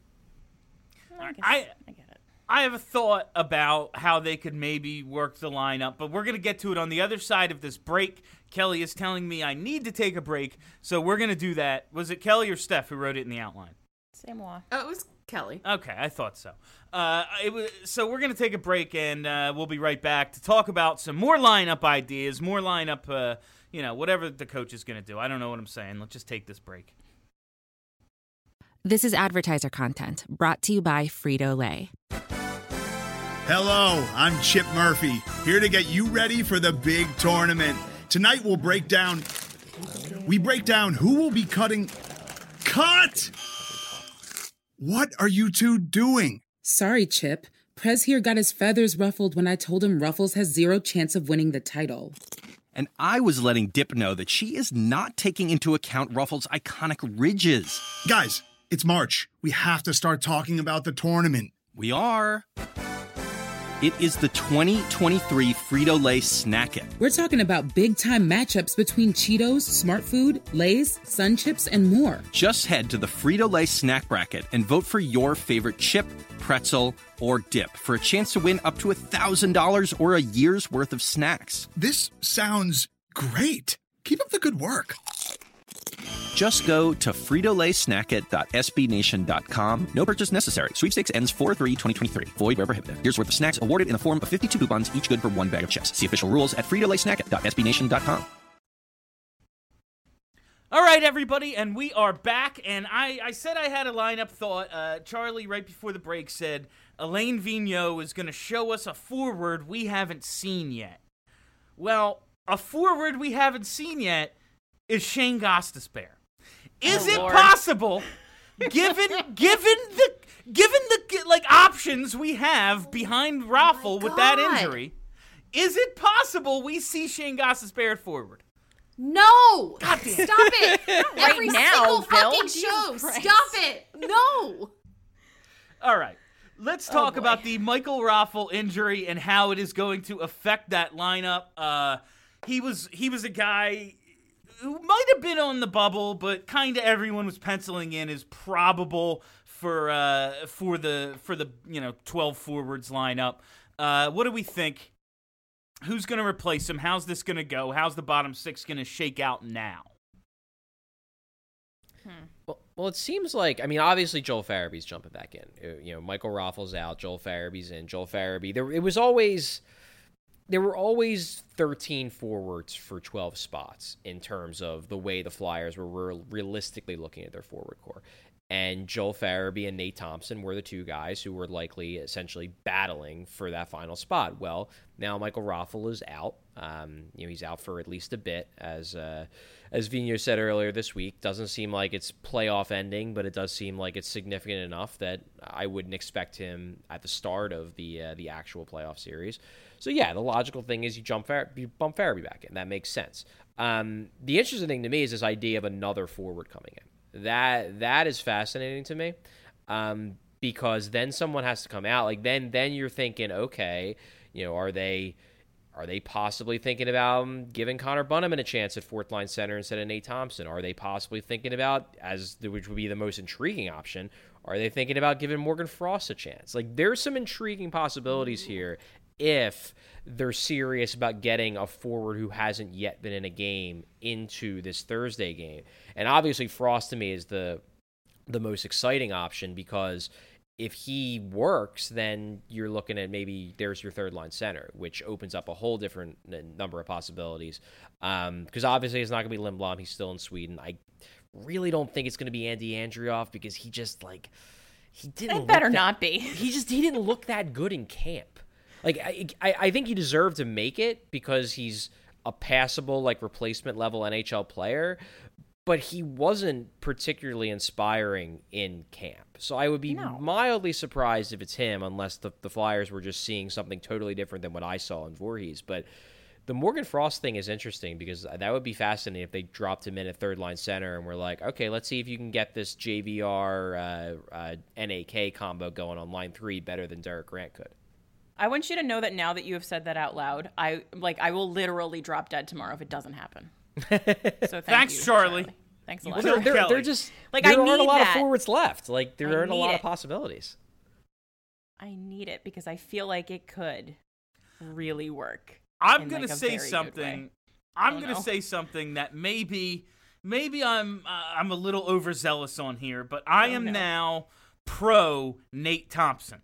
I get it. I have a thought about how they could maybe work the lineup, but we're going to get to it on the other side of this break. Kelly is telling me I need to take a break, so we're going to do that. Was it Kelly or Steph who wrote it in the outline? C'est moi. Oh, it was Kelly. Okay, I thought so. So we're going to take a break, and we'll be right back to talk about some more lineup ideas, more lineup, whatever the coach is going to do. I don't know what I'm saying. Let's just take this break. This is advertiser content brought to you by Frito-Lay. Hello, I'm Chip Murphy, here to get you ready for the big tournament. Tonight we'll break down who will be cutting. Cut! What are you two doing? Sorry, Chip. Prez here got his feathers ruffled when I told him Ruffles has 0 chance of winning the title. And I was letting Dip know that she is not taking into account Ruffles' iconic ridges. Guys, it's March. We have to start talking about the tournament. We are. It is the 2023 Frito-Lay Snack It. We're talking about big-time matchups between Cheetos, Smart Food, Lay's, Sun Chips, and more. Just head to the Frito-Lay Snack Bracket and vote for your favorite chip, pretzel, or dip for a chance to win up to $1,000 or a year's worth of snacks. This sounds great. Keep up the good work. Just go to fritolaysnackit.sbnation.com. No purchase necessary. Sweepstakes ends 4/3/2023. Void where prohibited. Here's worth of snacks awarded in the form of 52 coupons, each good for one bag of chips. See official rules at fritolaysnackit.sbnation.com. All right, everybody, and we are back. And I said I had a lineup thought. Charlie, right before the break, said Alain Vigneault is going to show us a forward we haven't seen yet. Well, a forward we haven't seen yet is Shane Gostisbehere. Is it possible, given the like options we have behind Raffle with that injury, is it possible we see Shane Gostisbehere at forward? No! God damn. Stop it! Every single Bill. fucking show. Stop it! No! All right. Let's talk about the Michael Raffle injury and how it is going to affect that lineup. He was a guy who might have been on the bubble, but kind of everyone was penciling in as probable for the 12 forwards lineup. What do we think? Who's going to replace him? How's this going to go? How's the bottom six going to shake out now? Well, it seems like, I mean, obviously Joel Farabee's jumping back in. Michael Raffle's out, Joel Farabee's in. Joel Farabee, there were always 13 forwards for 12 spots in terms of the way the Flyers were realistically looking at their forward core. And Joel Farabee and Nate Thompson were the two guys who were likely essentially battling for that final spot. Well, now Michael Raffle is out. He's out for at least a bit, as Vigneault said earlier this week. Doesn't seem like it's playoff ending, but it does seem like it's significant enough that I wouldn't expect him at the start of the actual playoff series. So yeah, the logical thing is you bump Farabee back in. That makes sense. The interesting thing to me is this idea of another forward coming in. That is fascinating to me, because then someone has to come out. Like then you're thinking, okay, are they possibly thinking about giving Connor Bunnaman a chance at fourth line center instead of Nate Thompson? Are they possibly thinking about, which would be the most intriguing option, are they thinking about giving Morgan Frost a chance? Like there's some intriguing possibilities here if they're serious about getting a forward who hasn't yet been in a game into this Thursday game. And obviously Frost to me is the most exciting option, because if he works, then you're looking at maybe there's your third line center, which opens up a whole different number of possibilities. Because obviously it's not going to be Lindblom. He's still in Sweden. I really don't think it's going to be Andy Andrioff, because he just he didn't. It better not be. He didn't look that good in camp. Like I think he deserved to make it because he's a passable replacement level NHL player, but he wasn't particularly inspiring in camp. So I would be mildly surprised if it's him, unless the Flyers were just seeing something totally different than what I saw in Voorhees. But the Morgan Frost thing is interesting, because that would be fascinating if they dropped him in at third line center and we're like, okay, let's see if you can get this JVR NAK combo going on line 3 better than Derek Grant could. I want you to know that now that you have said that out loud, I will literally drop dead tomorrow if it doesn't happen. So thanks, Charlie. Thanks a lot. They're just there aren't a lot of forwards left. There aren't a lot of possibilities. I need it because I feel like it could really work. I'm gonna say something. I'm gonna say something that maybe I'm a little overzealous on here, but I am now pro Nate Thompson.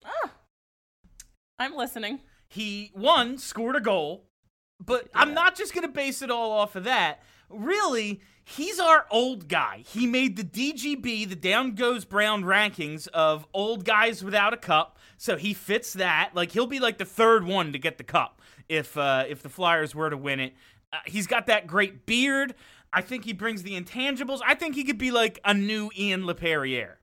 I'm listening. He, scored a goal, but I'm not just going to base it all off of that. Really, he's our old guy. He made the DGB, the Down Goes Brown rankings of old guys without a cup, so he fits that. He'll be the third one to get the cup if the Flyers were to win it. He's got that great beard. I think he brings the intangibles. I think he could be a new Ian LePerriere.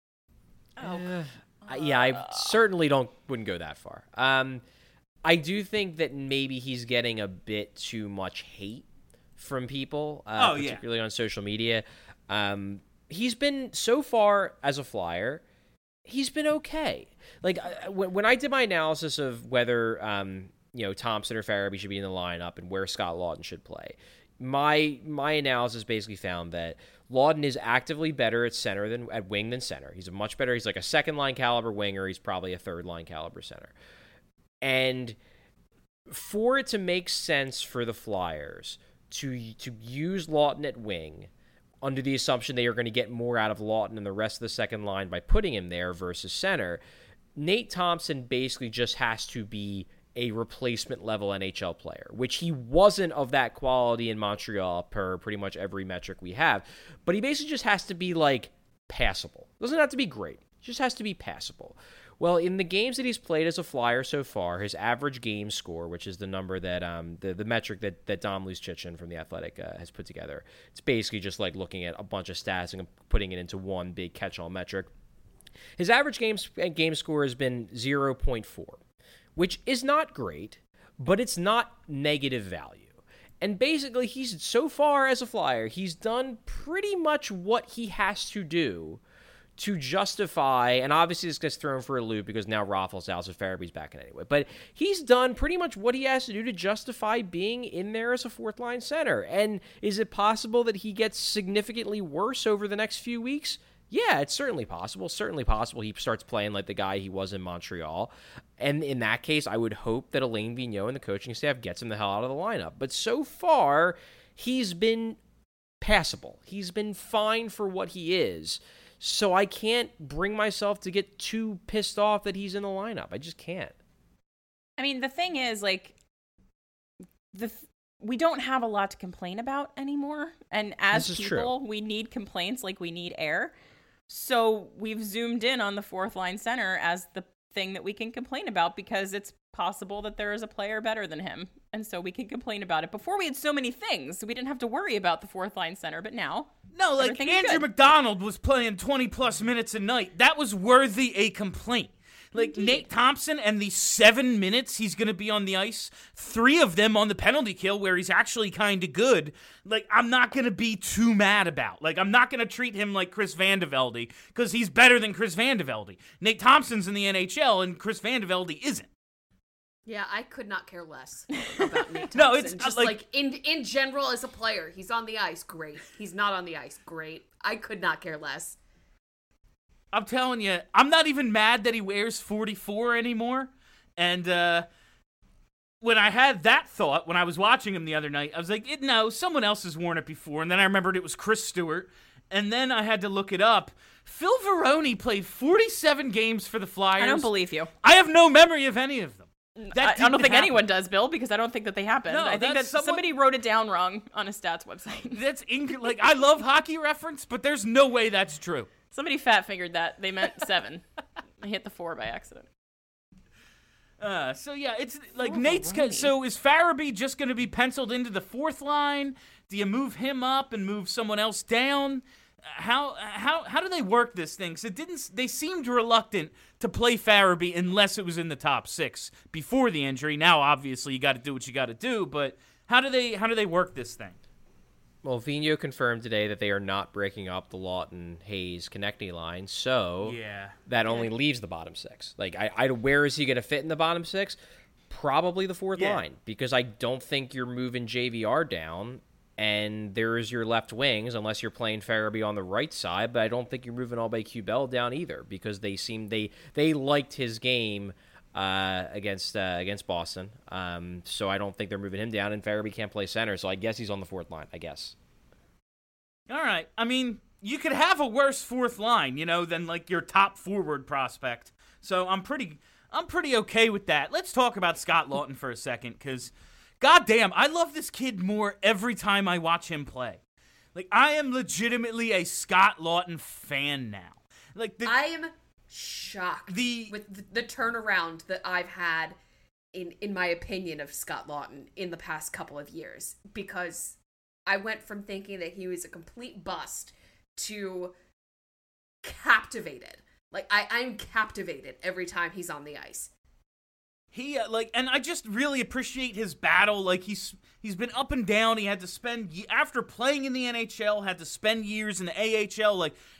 I certainly wouldn't go that far. I do think that maybe he's getting a bit too much hate from people, particularly on social media. He's been, so far as a Flyer, he's been okay. Like, when I did my analysis of whether, Thompson or Farabee should be in the lineup and where Scott Laughton should play, my analysis basically found that Laughton is actively better at wing than center. He's he's like a second-line caliber winger. He's probably a third-line caliber center. And for it to make sense for the Flyers to use Laughton at wing, under the assumption they are going to get more out of Laughton and the rest of the second line by putting him there versus center, Nate Thompson basically just has to be a replacement-level NHL player, which he wasn't of that quality in Montreal per pretty much every metric we have. But he basically just has to be, like, passable. Doesn't have to be great. He just has to be passable. Well, in the games that he's played as a Flyer so far, his average game score, which is the number that the metric that Dom Luszczyszyn from The Athletic has put together, it's basically just like looking at a bunch of stats and putting it into one big catch-all metric. His average game score has been 0.4, which is not great, but it's not negative value. And basically, he's so far as a Flyer, he's done pretty much what he has to do to justify, and obviously this gets thrown for a loop because now Raffl's out, so Farabee's back in anyway, but he's done pretty much what he has to do to justify being in there as a fourth-line center. And is it possible that he gets significantly worse over the next few weeks? Yeah, it's certainly possible. Certainly possible he starts playing like the guy he was in Montreal. And in that case, I would hope that Alain Vigneault and the coaching staff gets him the hell out of the lineup. But so far, he's been passable. He's been fine for what he is. So I can't bring myself to get too pissed off that he's in the lineup. I just can't. I mean, the thing is, like, we don't have a lot to complain about anymore. And as people, we need complaints like we need air. So we've zoomed in on the fourth line center as the thing that we can complain about because it's possible that there is a player better than him. And so we can complain about it. Before we had so many things, so we didn't have to worry about the fourth line center. But now, no, like Andrew McDonald was playing 20 plus minutes a night. That was worthy a complaint. Like, indeed. Nate Thompson and the 7 minutes he's going to be on the ice, 3 of them on the penalty kill where he's actually kind of good, like, I'm not going to be too mad about. Like, I'm not going to treat him like Chris Van de Velde because he's better than Chris Van de Velde. Nate Thompson's in the NHL and Chris Van de Velde isn't. Yeah, I could not care less about Nate Thompson. No, it's just like in general as a player, he's on the ice, great. He's not on the ice, great. I could not care less. I'm telling you, I'm not even mad that he wears 44 anymore. And when I had that thought, when I was watching him the other night, I was like, no, someone else has worn it before. And then I remembered it was Chris Stewart. And then I had to look it up. Phil Varone played 47 games for the Flyers. I don't believe you. I have no memory of any of them. I don't think anyone does, Bill, because I don't think that they happened. No, I think that somebody wrote it down wrong on a stats website. That's like, I love Hockey Reference, but there's no way that's true. Somebody fat-fingered that. They meant 7. I hit the 4 by accident. So yeah, it's like Nate's. So is Farabee just going to be penciled into the fourth line? Do you move him up and move someone else down? How do they work this thing? Because they seemed reluctant to play Farabee unless it was in the top 6 before the injury. Now, obviously, you got to do what you got to do. But how do they work this thing? Well, Vigneault confirmed today that they are not breaking up the Laughton-Hayes Konechny line, so that only leaves the bottom 6. Like, where is he going to fit in the bottom 6? Probably the fourth line, because I don't think you're moving JVR down, and there's your left wings, unless you're playing Farabee on the right side, but I don't think you're moving Aubé-Kubel down either, because they liked his game against Boston. So I don't think they're moving him down, and Farabee can't play center, so I guess he's on the fourth line, I guess. All right. I mean, you could have a worse fourth line, than like your top forward prospect. So I'm pretty okay with that. Let's talk about Scott Laughton for a second, because goddamn, I love this kid more every time I watch him play. Like, I am legitimately a Scott Laughton fan now. Like, I am shocked with the turnaround that I've had in my opinion of Scott Laughton in the past couple of years, because I went from thinking that he was a complete bust to captivated. Like, I'm captivated every time he's on the ice. He and I just really appreciate his battle. Like, he's been up and down. He had to spend, after playing in the NHL, had to spend years in the AHL. Like,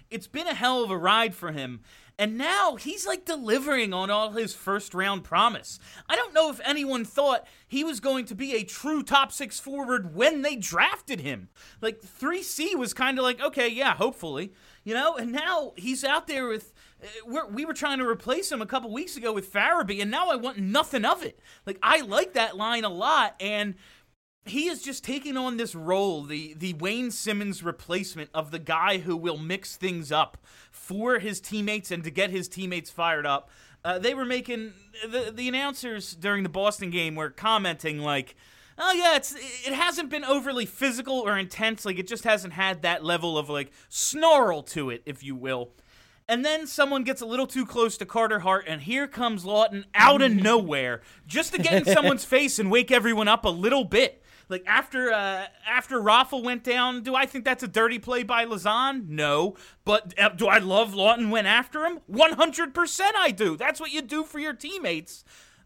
it's been a hell of a ride for him. And now he's like delivering on all his first round promise. I don't know if anyone thought he was going to be a true top 6 forward when they drafted him. Like 3C was kind of like, okay, yeah, hopefully, and now he's out there with, we were trying to replace him a couple weeks ago with Farabee, and now I want nothing of it. Like, I like that line a lot, and he is just taking on this role, the Wayne Simmons replacement of the guy who will mix things up for his teammates and to get his teammates fired up. They were making, the announcers during the Boston game were commenting like, oh yeah, it hasn't been overly physical or intense, like it just hasn't had that level of like snarl to it, if you will. And then someone gets a little too close to Carter Hart, and here comes Lawton out of nowhere, just to get in someone's face and wake everyone up a little bit. Like, after Raffle went down, do I think that's a dirty play by Lauzon? No. But do I love Lawton went after him? 100% I do. That's what you do for your teammates.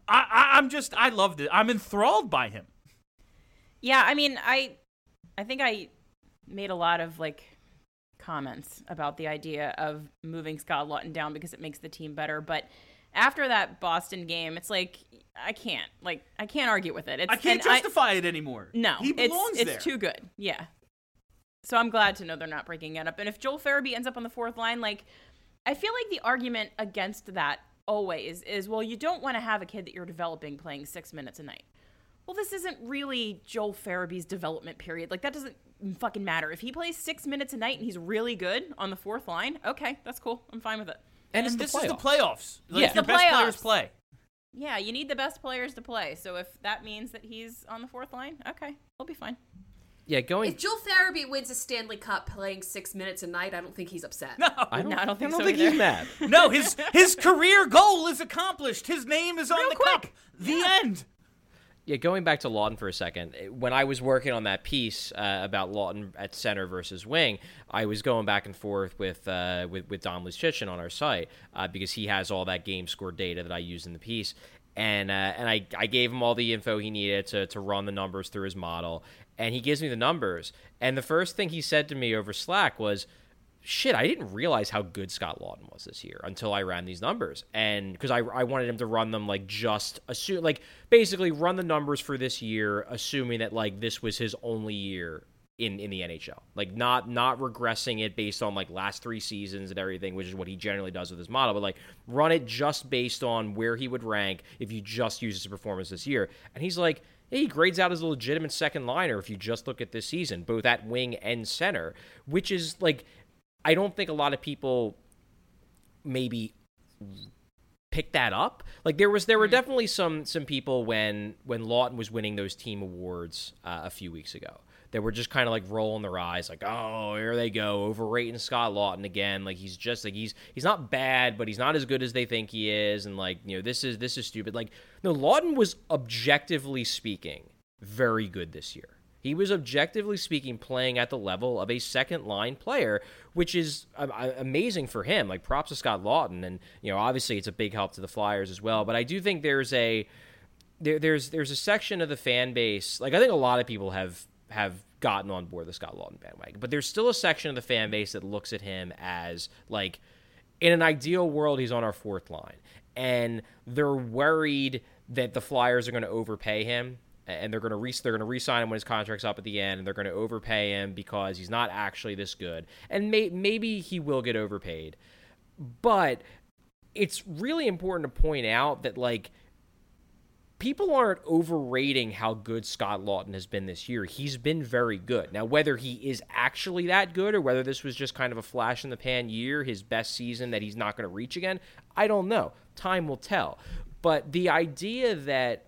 I loved it. I'm enthralled by him. Yeah, I mean, I think I made a lot of, like, comments about the idea of moving Scott Lawton down because it makes the team better, but after that Boston game, it's like I can't argue with it. I can't justify it anymore. No, he belongs there. It's too good. Yeah. So I'm glad to know they're not breaking it up. And if Joel Farabee ends up on the fourth line, like, I feel like the argument against that always is, well, you don't want to have a kid that you're developing playing 6 minutes a night. Well, this isn't really Joel Farabee's development period. Like, that doesn't fucking matter. If he plays 6 minutes a night and he's really good on the fourth line, okay, that's cool. I'm fine with it. And this is the playoffs. Like, yeah, your best players play. Yeah, you need the best players to play. So if that means that he's on the fourth line, okay, we'll be fine. Yeah, If Joel Farabee wins a Stanley Cup playing 6 minutes a night, I don't think he's upset. No, I don't think so he's mad. No, his career goal is accomplished. His name is on the cup. The end. Yeah, going back to Lawton for a second, when I was working on that piece about Lawton at center versus wing, I was going back and forth with Dom Luszczyszyn on our site because he has all that game score data that I use in the piece. And I gave him all the info he needed to run the numbers through his model. And he gives me the numbers. And the first thing he said to me over Slack was, shit, I didn't realize how good Scott Lawton was this year until I ran these numbers. And because I wanted him to run them basically run the numbers for this year, assuming that like this was his only year in the NHL. Like not regressing it based on like last 3 seasons and everything, which is what he generally does with his model, but like run it just based on where he would rank if you just use his performance this year. And he's like, he grades out as a legitimate second liner if you just look at this season, both at wing and center, which is like, I don't think a lot of people maybe pick that up. Like there were definitely some people when Lawton was winning those team awards a few weeks ago that were just kind of like rolling their eyes, like, oh, here they go, overrating Scott Lawton again. Like he's just like he's not bad, but he's not as good as they think he is, and like this is stupid. Like no, Lawton was objectively speaking very good this year. He was objectively speaking playing at the level of a second-line player, which is amazing for him. Like, props to Scott Lawton, and obviously it's a big help to the Flyers as well. But I do think there's a section of the fan base. Like, I think a lot of people have gotten on board the Scott Lawton bandwagon, but there's still a section of the fan base that looks at him as like, in an ideal world, he's on our fourth line, and they're worried that the Flyers are going to overpay him. And they're going to re-sign him when his contract's up at the end, and they're going to overpay him because he's not actually this good. And maybe he will get overpaid. But it's really important to point out that, like, people aren't overrating how good Scott Lawton has been this year. He's been very good. Now, whether he is actually that good or whether this was just kind of a flash-in-the-pan year, his best season that he's not going to reach again, I don't know. Time will tell. But the idea that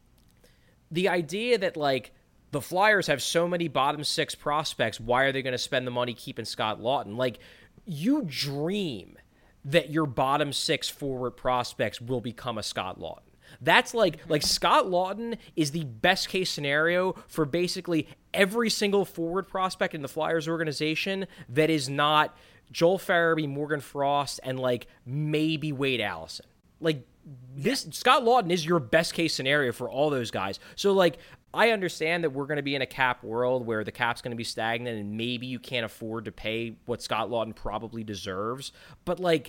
like the Flyers have so many bottom 6 prospects, why are they going to spend the money keeping Scott Lawton? Like, you dream that your bottom 6 forward prospects will become a Scott Lawton. That's like Scott Lawton is the best case scenario for basically every single forward prospect in the Flyers organization that is not Joel Farabee, Morgan Frost, and like maybe Wade Allison. Like, this Scott Lawton is your best case scenario for all those guys. So, like, I understand that we're going to be in a cap world where the cap's going to be stagnant and maybe you can't afford to pay what Scott Lawton probably deserves. But, like,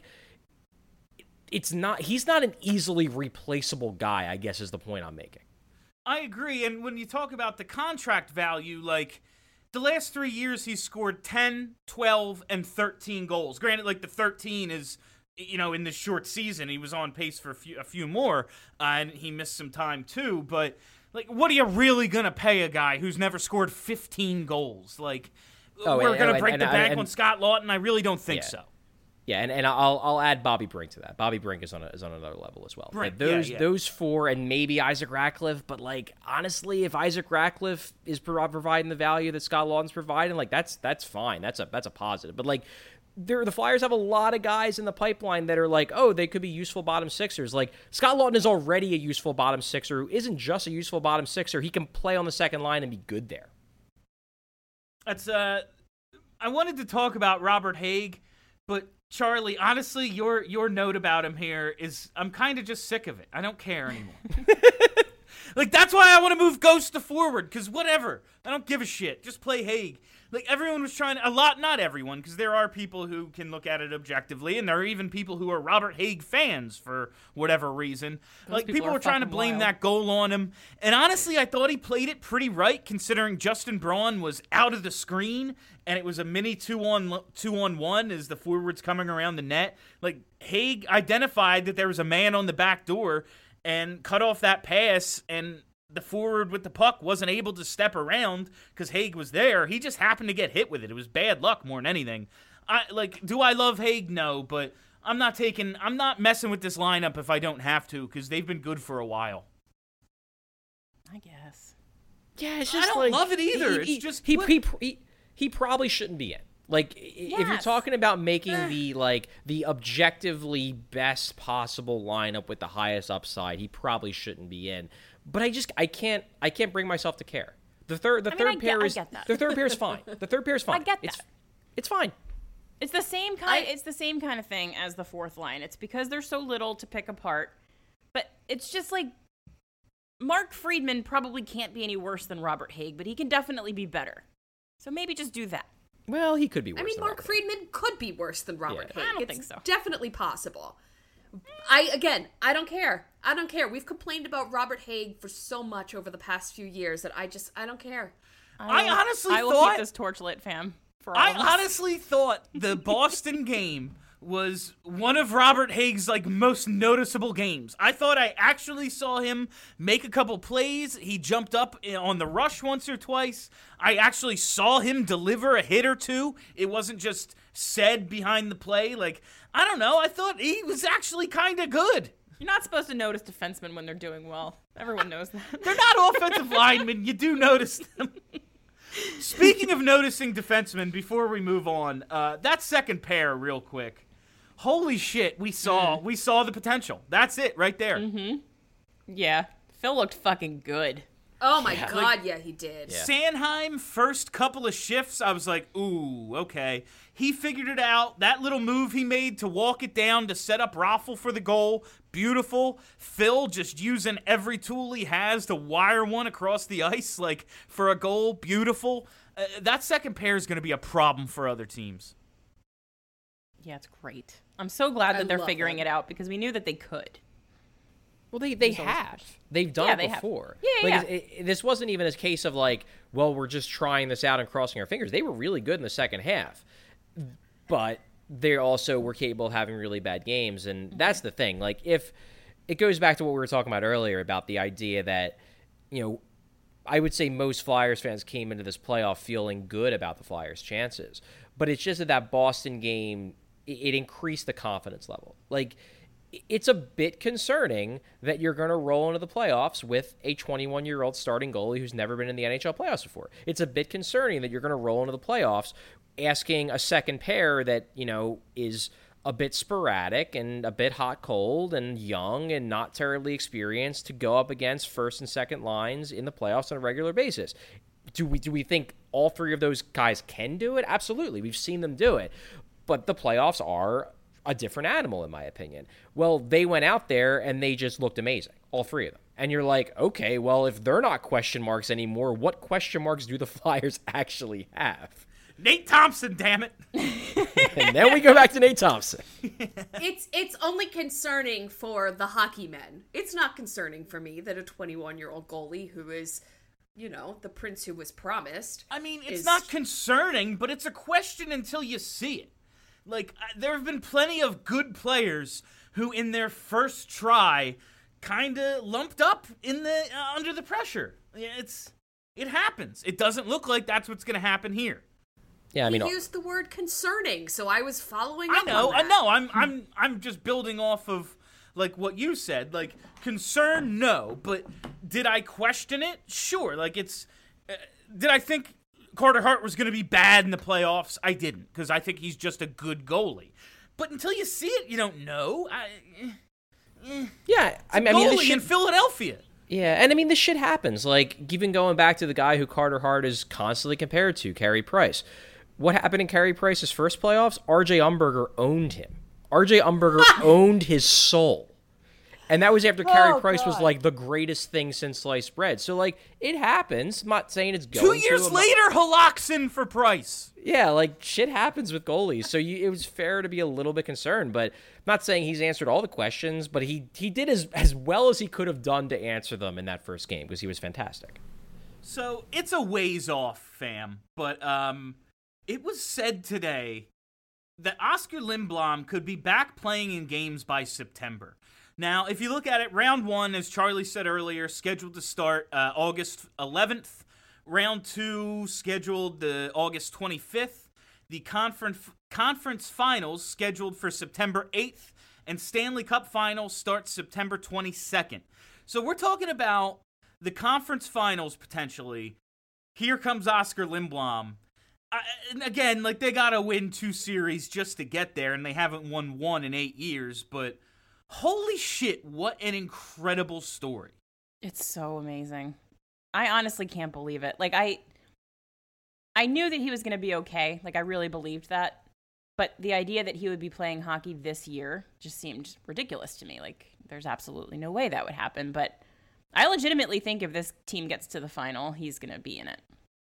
he's not an easily replaceable guy, I guess is the point I'm making. I agree. And when you talk about the contract value, like, the last 3 years he's scored 10, 12, and 13 goals. Granted, like, the 13 is, in this short season, he was on pace for a few more, and he missed some time too, but... Like, what are you really going to pay a guy who's never scored 15 goals? Like, we're going to break the bank on Scott Lawton? I really don't think so. Yeah, and I'll add Bobby Brink to that. Bobby Brink is on another level as well. Brink, like those four, and maybe Isaac Ratcliffe, but, like, honestly, if Isaac Ratcliffe is providing the value that Scott Lawton's providing, like, that's fine. That's a positive. But, like, the Flyers have a lot of guys in the pipeline that are like, oh, they could be useful bottom sixers. Like, Scott Lawton is already a useful bottom sixer who isn't just a useful bottom sixer. He can play on the second line and be good there. That's I wanted to talk about Robert Haig, but Charlie, honestly, your note about him here is I'm kind of just sick of it. I don't care anymore. Like, that's why I want to move Ghost to forward, because whatever. I don't give a shit. Just play Haig. Like, everyone was trying to, not everyone, because there are people who can look at it objectively, and there are even people who are Robert Haig fans for whatever reason. Like, people were trying to blame that goal on him. And honestly, I thought he played it pretty right, considering Justin Braun was out of the screen, and it was a mini 2-on-1 as the forwards coming around the net. Like, Haig identified that there was a man on the back door and cut off that pass, and the forward with the puck wasn't able to step around because Haig was there. He just happened to get hit with it. It was bad luck more than anything. Do I love Haig? No, but I'm not messing with this lineup if I don't have to, because they've been good for a while. I guess. Yeah, it's just I don't love it either. It's just he probably shouldn't be in. Like, if you're talking about making the objectively best possible lineup with the highest upside, he probably shouldn't be in. But I can't bring myself to care. The third pair is fine. The third pair is fine. I get that. It's fine. It's the same kind of thing as the fourth line. It's because there's so little to pick apart. But it's just like Mark Friedman probably can't be any worse than Robert Haig, but he can definitely be better. So maybe just do that. Well, he could be worse. I mean, Mark Friedman could be worse than Robert Haig. I don't think so. Definitely possible. I don't care. I don't care. We've complained about Robert Haig for so much over the past few years that I don't care. I will keep this torch lit, fam. I honestly thought the Boston game was one of Robert Haig's most noticeable games. I thought I actually saw him make a couple plays. He jumped up on the rush once or twice. I actually saw him deliver a hit or two. It wasn't just said behind the play. I don't know. I thought he was actually kind of good. You're not supposed to notice defensemen when they're doing well. Everyone knows that. They're not offensive linemen. You do notice them. Speaking of noticing defensemen, before we move on, that second pair real quick. Holy shit, we saw the potential. That's it right there. Mm-hmm. Yeah. Phil looked fucking good. Oh my God, yeah, he did. Yeah. Sanheim, first couple of shifts, I was like, ooh, okay. He figured it out. That little move he made to walk it down to set up Raffl for the goal, beautiful. Phil just using every tool he has to wire one across the ice, for a goal, beautiful. That second pair is going to be a problem for other teams. Yeah, it's great. I'm so glad that they're figuring it out, because we knew that they could. Well, they have. They've done it before. Yeah. This wasn't even a case of we're just trying this out and crossing our fingers. They were really good in the second half. But they also were capable of having really bad games. And that's the thing. If it goes back to what we were talking about earlier about the idea that, I would say most Flyers fans came into this playoff feeling good about the Flyers' chances. But it's just that Boston game, it increased the confidence level. It's a bit concerning that you're going to roll into the playoffs with a 21-year-old starting goalie who's never been in the NHL playoffs before. It's a bit concerning that you're going to roll into the playoffs asking a second pair that, is a bit sporadic and a bit hot-cold and young and not terribly experienced to go up against first and second lines in the playoffs on a regular basis. Do we think all three of those guys can do it? Absolutely. We've seen them do it. But the playoffs are a different animal, in my opinion. Well, they went out there and they just looked amazing, all three of them. And you're like, okay, well, if they're not question marks anymore, what question marks do the Flyers actually have? Nate Thompson, damn it. And then we go back to Nate Thompson. It's only concerning for the hockey men. It's not concerning for me that a 21-year-old goalie who is, the prince who was promised. I mean, it's not concerning, but it's a question until you see it. Like, there have been plenty of good players who, in their first try, kind of lumped up in the under the pressure. It happens. It doesn't look like that's what's going to happen here. Yeah, I mean, you used the word concerning, so I was following up I know. on that. I'm just building off of like what you said. Like, concern, no, but did I question it? Sure. Like, did I think Carter Hart was going to be bad in the playoffs? I didn't, because I think he's just a good goalie. But until you see it, you don't know. Yeah, I mean, goalie in Philadelphia. Yeah, and I mean, this shit happens. Like, even going back to the guy who Carter Hart is constantly compared to, Carey Price. What happened in Carey Price's first playoffs? R.J. Umberger owned him. R.J. Umberger owned his soul. And that was after Carey Price was, like, the greatest thing since sliced bread. So, like, it happens. I'm not saying it's going 2 years later, Halakson for Price. Yeah, like, shit happens with goalies. So it was fair to be a little bit concerned. But I'm not saying he's answered all the questions, but he did as well as he could have done to answer them in that first game, because he was fantastic. So it's a ways off, fam. But it was said today that Oscar Lindblom could be back playing in games by September. Now, if you look at it, round one, as Charlie said earlier, scheduled to start August 11th. Round two, scheduled August 25th. The conference finals scheduled for September 8th. And Stanley Cup finals start September 22nd. So we're talking about the conference finals, potentially. Here comes Oscar Lindblom. And again, like, they got to win 2 series just to get there, and they haven't won one in 8 years, but holy shit, what an incredible story. It's so amazing. I honestly can't believe it. Like, I knew that he was going to be okay. Like, I really believed that. But the idea that he would be playing hockey this year just seemed ridiculous to me. Like, there's absolutely no way that would happen. But I legitimately think if this team gets to the final, he's going to be in it.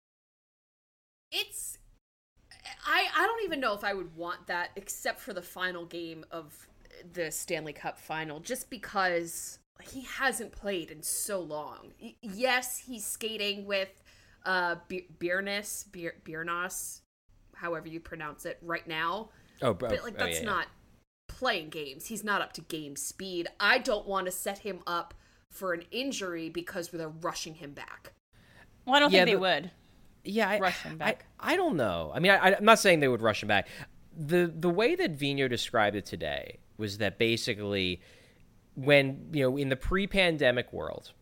I don't even know if I would want that, except for the final game of the Stanley Cup final, just because he hasn't played in so long. Yes, he's skating with Biernas, however you pronounce it, right now. But that's not playing games. He's not up to game speed. I don't want to set him up for an injury because they're rushing him back. Well, I don't think they would. Yeah, rush him back. I don't know. I mean, I'm not saying they would rush him back. The way that Vigneault described it today was that basically when, in the pre-pandemic world,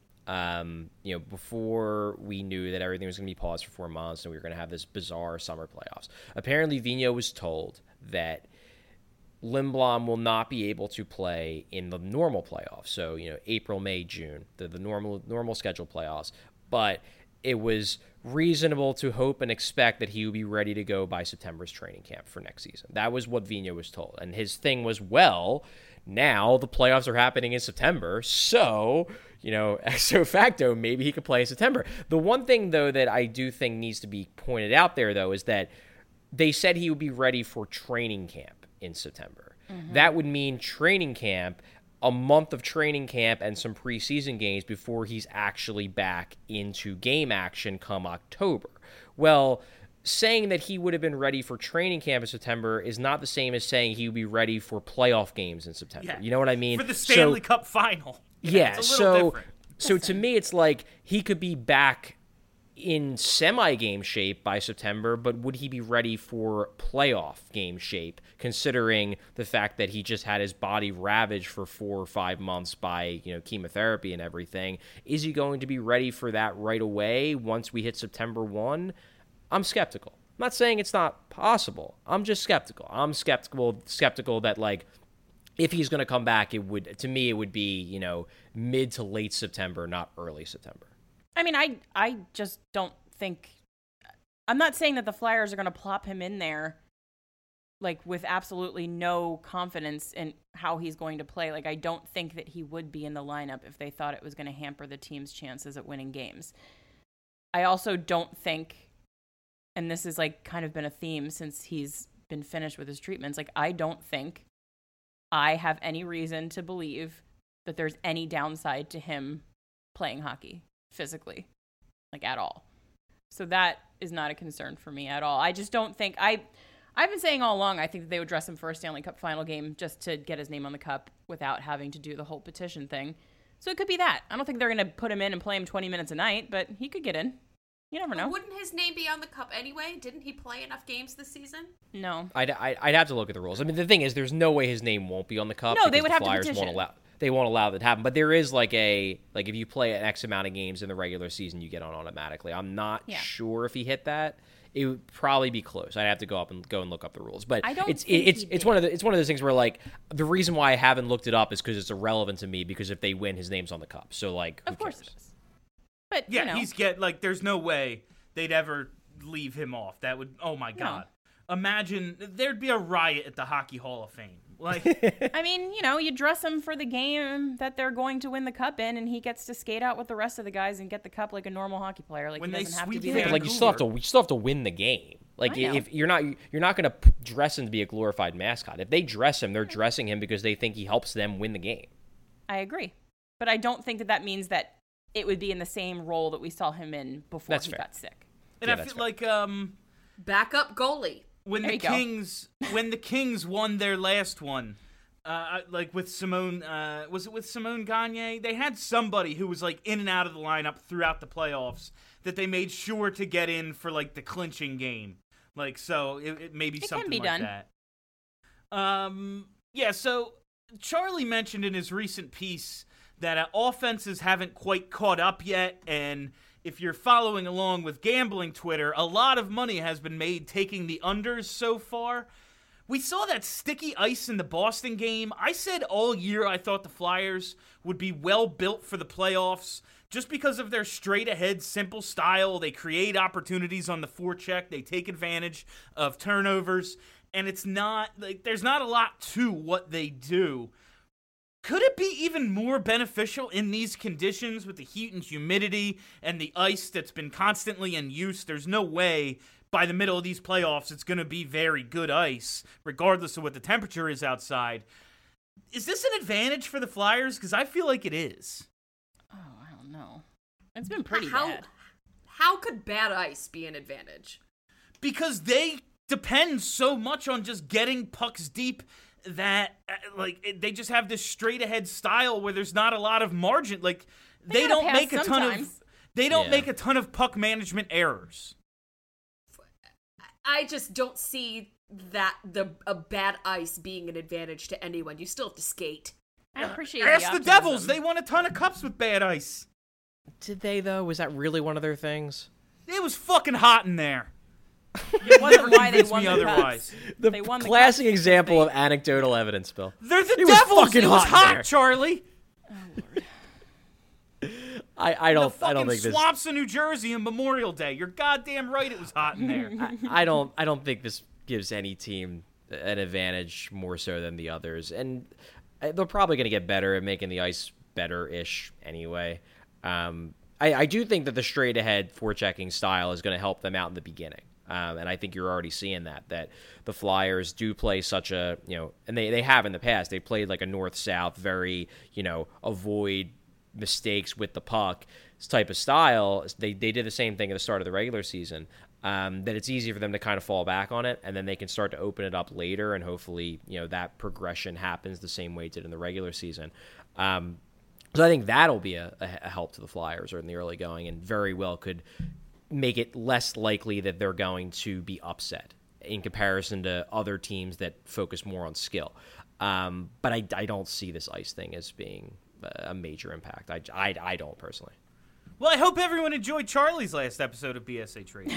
before we knew that everything was going to be paused for 4 months and we were going to have this bizarre summer playoffs, apparently Vigneault was told that Lindblom will not be able to play in the normal playoffs. So, April, May, June, the normal scheduled playoffs. But it was reasonable to hope and expect that he would be ready to go by September's training camp for next season. That was what Vigneault was told. And his thing was, well, now the playoffs are happening in September, so, ipso facto, maybe he could play in September. The one thing, though, that I do think needs to be pointed out there, though, is that they said he would be ready for training camp in September. Mm-hmm. That would mean training camp, a month of training camp and some preseason games before he's actually back into game action come October. Well, saying that he would have been ready for training camp in September is not the same as saying he would be ready for playoff games in September. Yeah. You know what I mean? For the Stanley Cup final. Yeah, it's a little different. So to me, it's like he could be back in semi-game shape by September, but would he be ready for playoff game shape, considering the fact that he just had his body ravaged for 4 or 5 months by, chemotherapy and everything? Is he going to be ready for that right away once we hit September 1? I'm skeptical. I'm not saying it's not possible. I'm just skeptical. I'm skeptical that, like, if he's going to come back, it would be, mid to late September, not early September. I mean, I just don't think... I'm not saying that the Flyers are going to plop him in there like with absolutely no confidence in how he's going to play. Like I don't think that he would be in the lineup if they thought it was going to hamper the team's chances at winning games. I also don't think, and this has like kind of been a theme since he's been finished with his treatments, like I don't think I have any reason to believe that there's any downside to him playing hockey physically, like at all. So that is not a concern for me at all. I just don't think I've been saying all along, I think that they would dress him for a Stanley Cup final game just to get his name on the cup without having to do the whole petition thing. So it could be that. I don't think they're going to put him in and play him 20 minutes a night, but he could get in. You never know. But wouldn't his name be on the cup anyway? Didn't he play enough games this season? No. I'd have to look at the rules. I mean, the thing is, there's no way his name won't be on the cup. No, they because would the have Flyers to petition. They won't allow that to happen. But there is like if you play an X amount of games in the regular season, you get on automatically. I'm not sure if he hit that. It would probably be close. I'd have to go and look up the rules. But I don't it's one of those things where like the reason why I haven't looked it up is because it's irrelevant to me, because if they win, his name's on the cup. So like, of course it is. But Yeah, you know. there's no way they'd ever leave him off. That would, oh my God. Imagine, there'd be a riot at the Hockey Hall of Fame. Like, I mean, you know, you dress him for the game that they're going to win the cup in, and he gets to skate out with the rest of the guys and get the cup like a normal hockey player. Like When he they doesn't have to sweep be the there. but like you still have to win the game. Like I know. if you're not going to dress him to be a glorified mascot. If they dress him, they're dressing him because they think he helps them win the game. I agree. But I don't think that means that it would be in the same role that we saw him in before That's he fair. got sick. and Yeah, I that's feel fair. like, Backup goalie. when There the you go. Kings won their last one, like with Simone, was it with Simone Gagne? They had somebody who was like in and out of the lineup throughout the playoffs that they made sure to get in for like the clinching game. Like, so it may be It can something be like done. that. Yeah. So Charlie mentioned in his recent piece that offenses haven't quite caught up yet, and if you're following along with gambling Twitter, a lot of money has been made taking the unders so far. We saw that sticky ice in the Boston game. I said all year I thought the Flyers would be well built for the playoffs just because of their straight-ahead, simple style. They create opportunities on the forecheck. They take advantage of turnovers, and it's not like there's not a lot to what they do. Could it be even more beneficial in these conditions with the heat and humidity and the ice that's been constantly in use? There's no way by the middle of these playoffs it's going to be very good ice, regardless of what the temperature is outside. Is this an advantage for the Flyers? Because I feel like it is. Oh, I don't know. It's been pretty How bad. how could bad ice be an advantage? Because they depend so much on just getting pucks deep that they just have this straight ahead style where there's not a lot of margin. Like they gotta don't pass make a ton of sometimes. make a ton of puck management errors. I just don't see that a bad ice being an advantage to anyone. You still have to skate. I appreciate Ask the optimism. Devils. They won a ton of cups with bad ice. Did they though? Was that really one of their things? It was fucking hot in there. It wasn't why they convince won me the otherwise. cups. The They won the classic cups example because of anecdotal evidence, Bill. They're the It was Devils. fucking It was hot in there. hot, Charlie. I don't think this. Swamps of New Jersey on Memorial Day. You're goddamn right. It was hot in there. I don't think this gives any team an advantage more so than the others, and they're probably going to get better at making the ice better-ish anyway. I do think that the straight-ahead forechecking style is going to help them out in the beginning, and I think you're already seeing that the Flyers do play such a, and they have in the past. They played like a north-south, very, avoid mistakes with the puck type of style. They did the same thing at the start of the regular season. That it's easy for them to kind of fall back on it, and then they can start to open it up later, and hopefully, that progression happens the same way it did in the regular season. So I think that'll be a help to the Flyers or in the early going, and very well could make it less likely that they're going to be upset in comparison to other teams that focus more on skill. But I don't see this ice thing as being a major impact. I don't personally. Well, I hope everyone enjoyed Charlie's last episode of BSA Trade.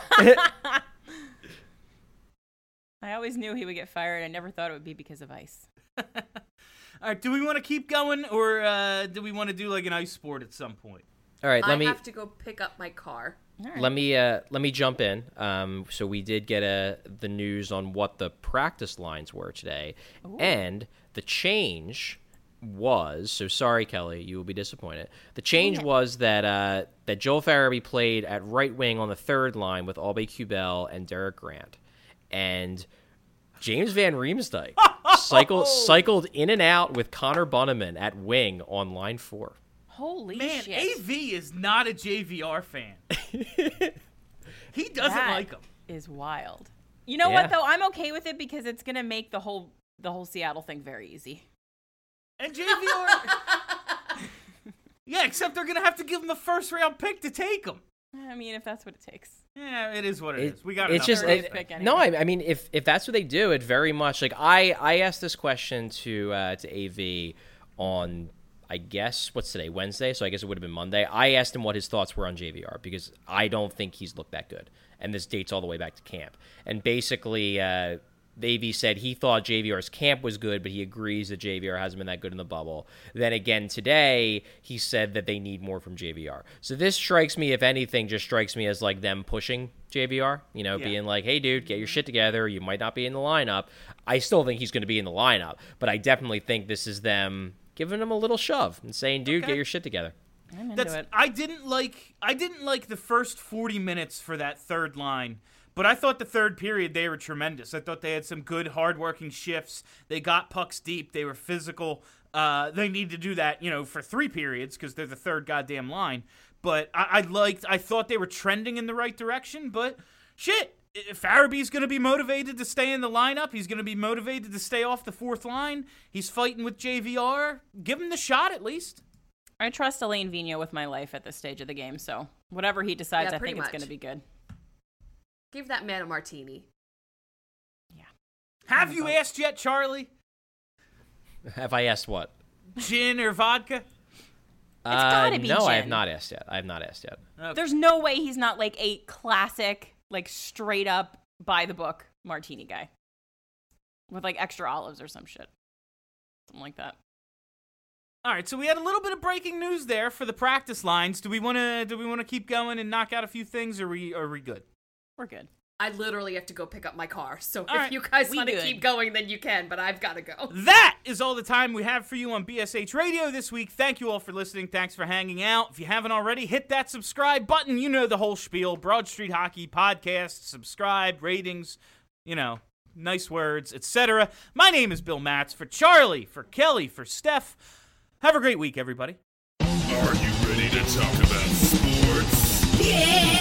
I always knew he would get fired. I never thought it would be because of ice. All right, do we want to keep going, or do we want to do like an ice sport at some point? All right, I have to go pick up my car. Let me jump in. So we did get the news on what the practice lines were today, and the change was, so sorry, Kelly, you will be disappointed. The change was that Joel Farabee played at right wing on the third line with Albe Kubel and Derek Grant, and James Van Riemsdyk cycled in and out with Connor Bunneman at wing on line 4. Holy man, shit. AV is not a JVR fan. He doesn't like him. Is wild. You know what though? I'm okay with it because it's gonna make the whole Seattle thing very easy. And JVR, yeah, except they're gonna have to give him the first round pick to take him. I mean, if that's what it takes. Yeah, it is what it is. We got it's just pick anyway. No. I mean, if that's what they do, it very much like I asked this question to AV on, I guess, what's today, Wednesday? So I guess it would have been Monday. I asked him what his thoughts were on JVR because I don't think he's looked that good. And this dates all the way back to camp. And basically, AV said he thought JVR's camp was good, but he agrees that JVR hasn't been that good in the bubble. Then again today, he said that they need more from JVR. So this strikes me, if anything, just strikes me as like them pushing JVR, being like, hey, dude, get your shit together. You might not be in the lineup. I still think he's going to be in the lineup, but I definitely think this is them giving him a little shove and saying, dude, get your shit together. I'm into it. I didn't like the first 40 minutes for that third line. But I thought the third period, they were tremendous. I thought they had some good, hard-working shifts. They got pucks deep. They were physical. They need to do that, for 3 periods because they're the third goddamn line. But I thought they were trending in the right direction. But shit, Farabee's going to be motivated to stay in the lineup. He's going to be motivated to stay off the fourth line. He's fighting with JVR. Give him the shot at least. I trust Alain Vigneault with my life at this stage of the game. So whatever he decides, Yeah, I think pretty it's going to much. be good. Give that man a martini. Yeah. Have you asked yet, Charlie? Have I asked what? Gin or vodka? gotta be no, I have gin. not asked yet. Okay. There's no way he's not like a classic, like straight up by the book martini guy with like extra olives or some shit, something like that. All right, so we had a little bit of breaking news there for the practice lines. Do we want to keep going and knock out a few things, or are we good? We're good. I literally have to go pick up my car. So if right, you guys we want to good. keep going, then you can, but I've got to go. That is all the time we have for you on BSH Radio this week. Thank you all for listening. Thanks for hanging out. If you haven't already, hit that subscribe button. You know the whole spiel. Broad Street Hockey Podcast, subscribe, ratings, nice words, etc. My name is Bill Matz. For Charlie, for Kelly, for Steph, have a great week, everybody. Are you ready to talk about sports? Yeah!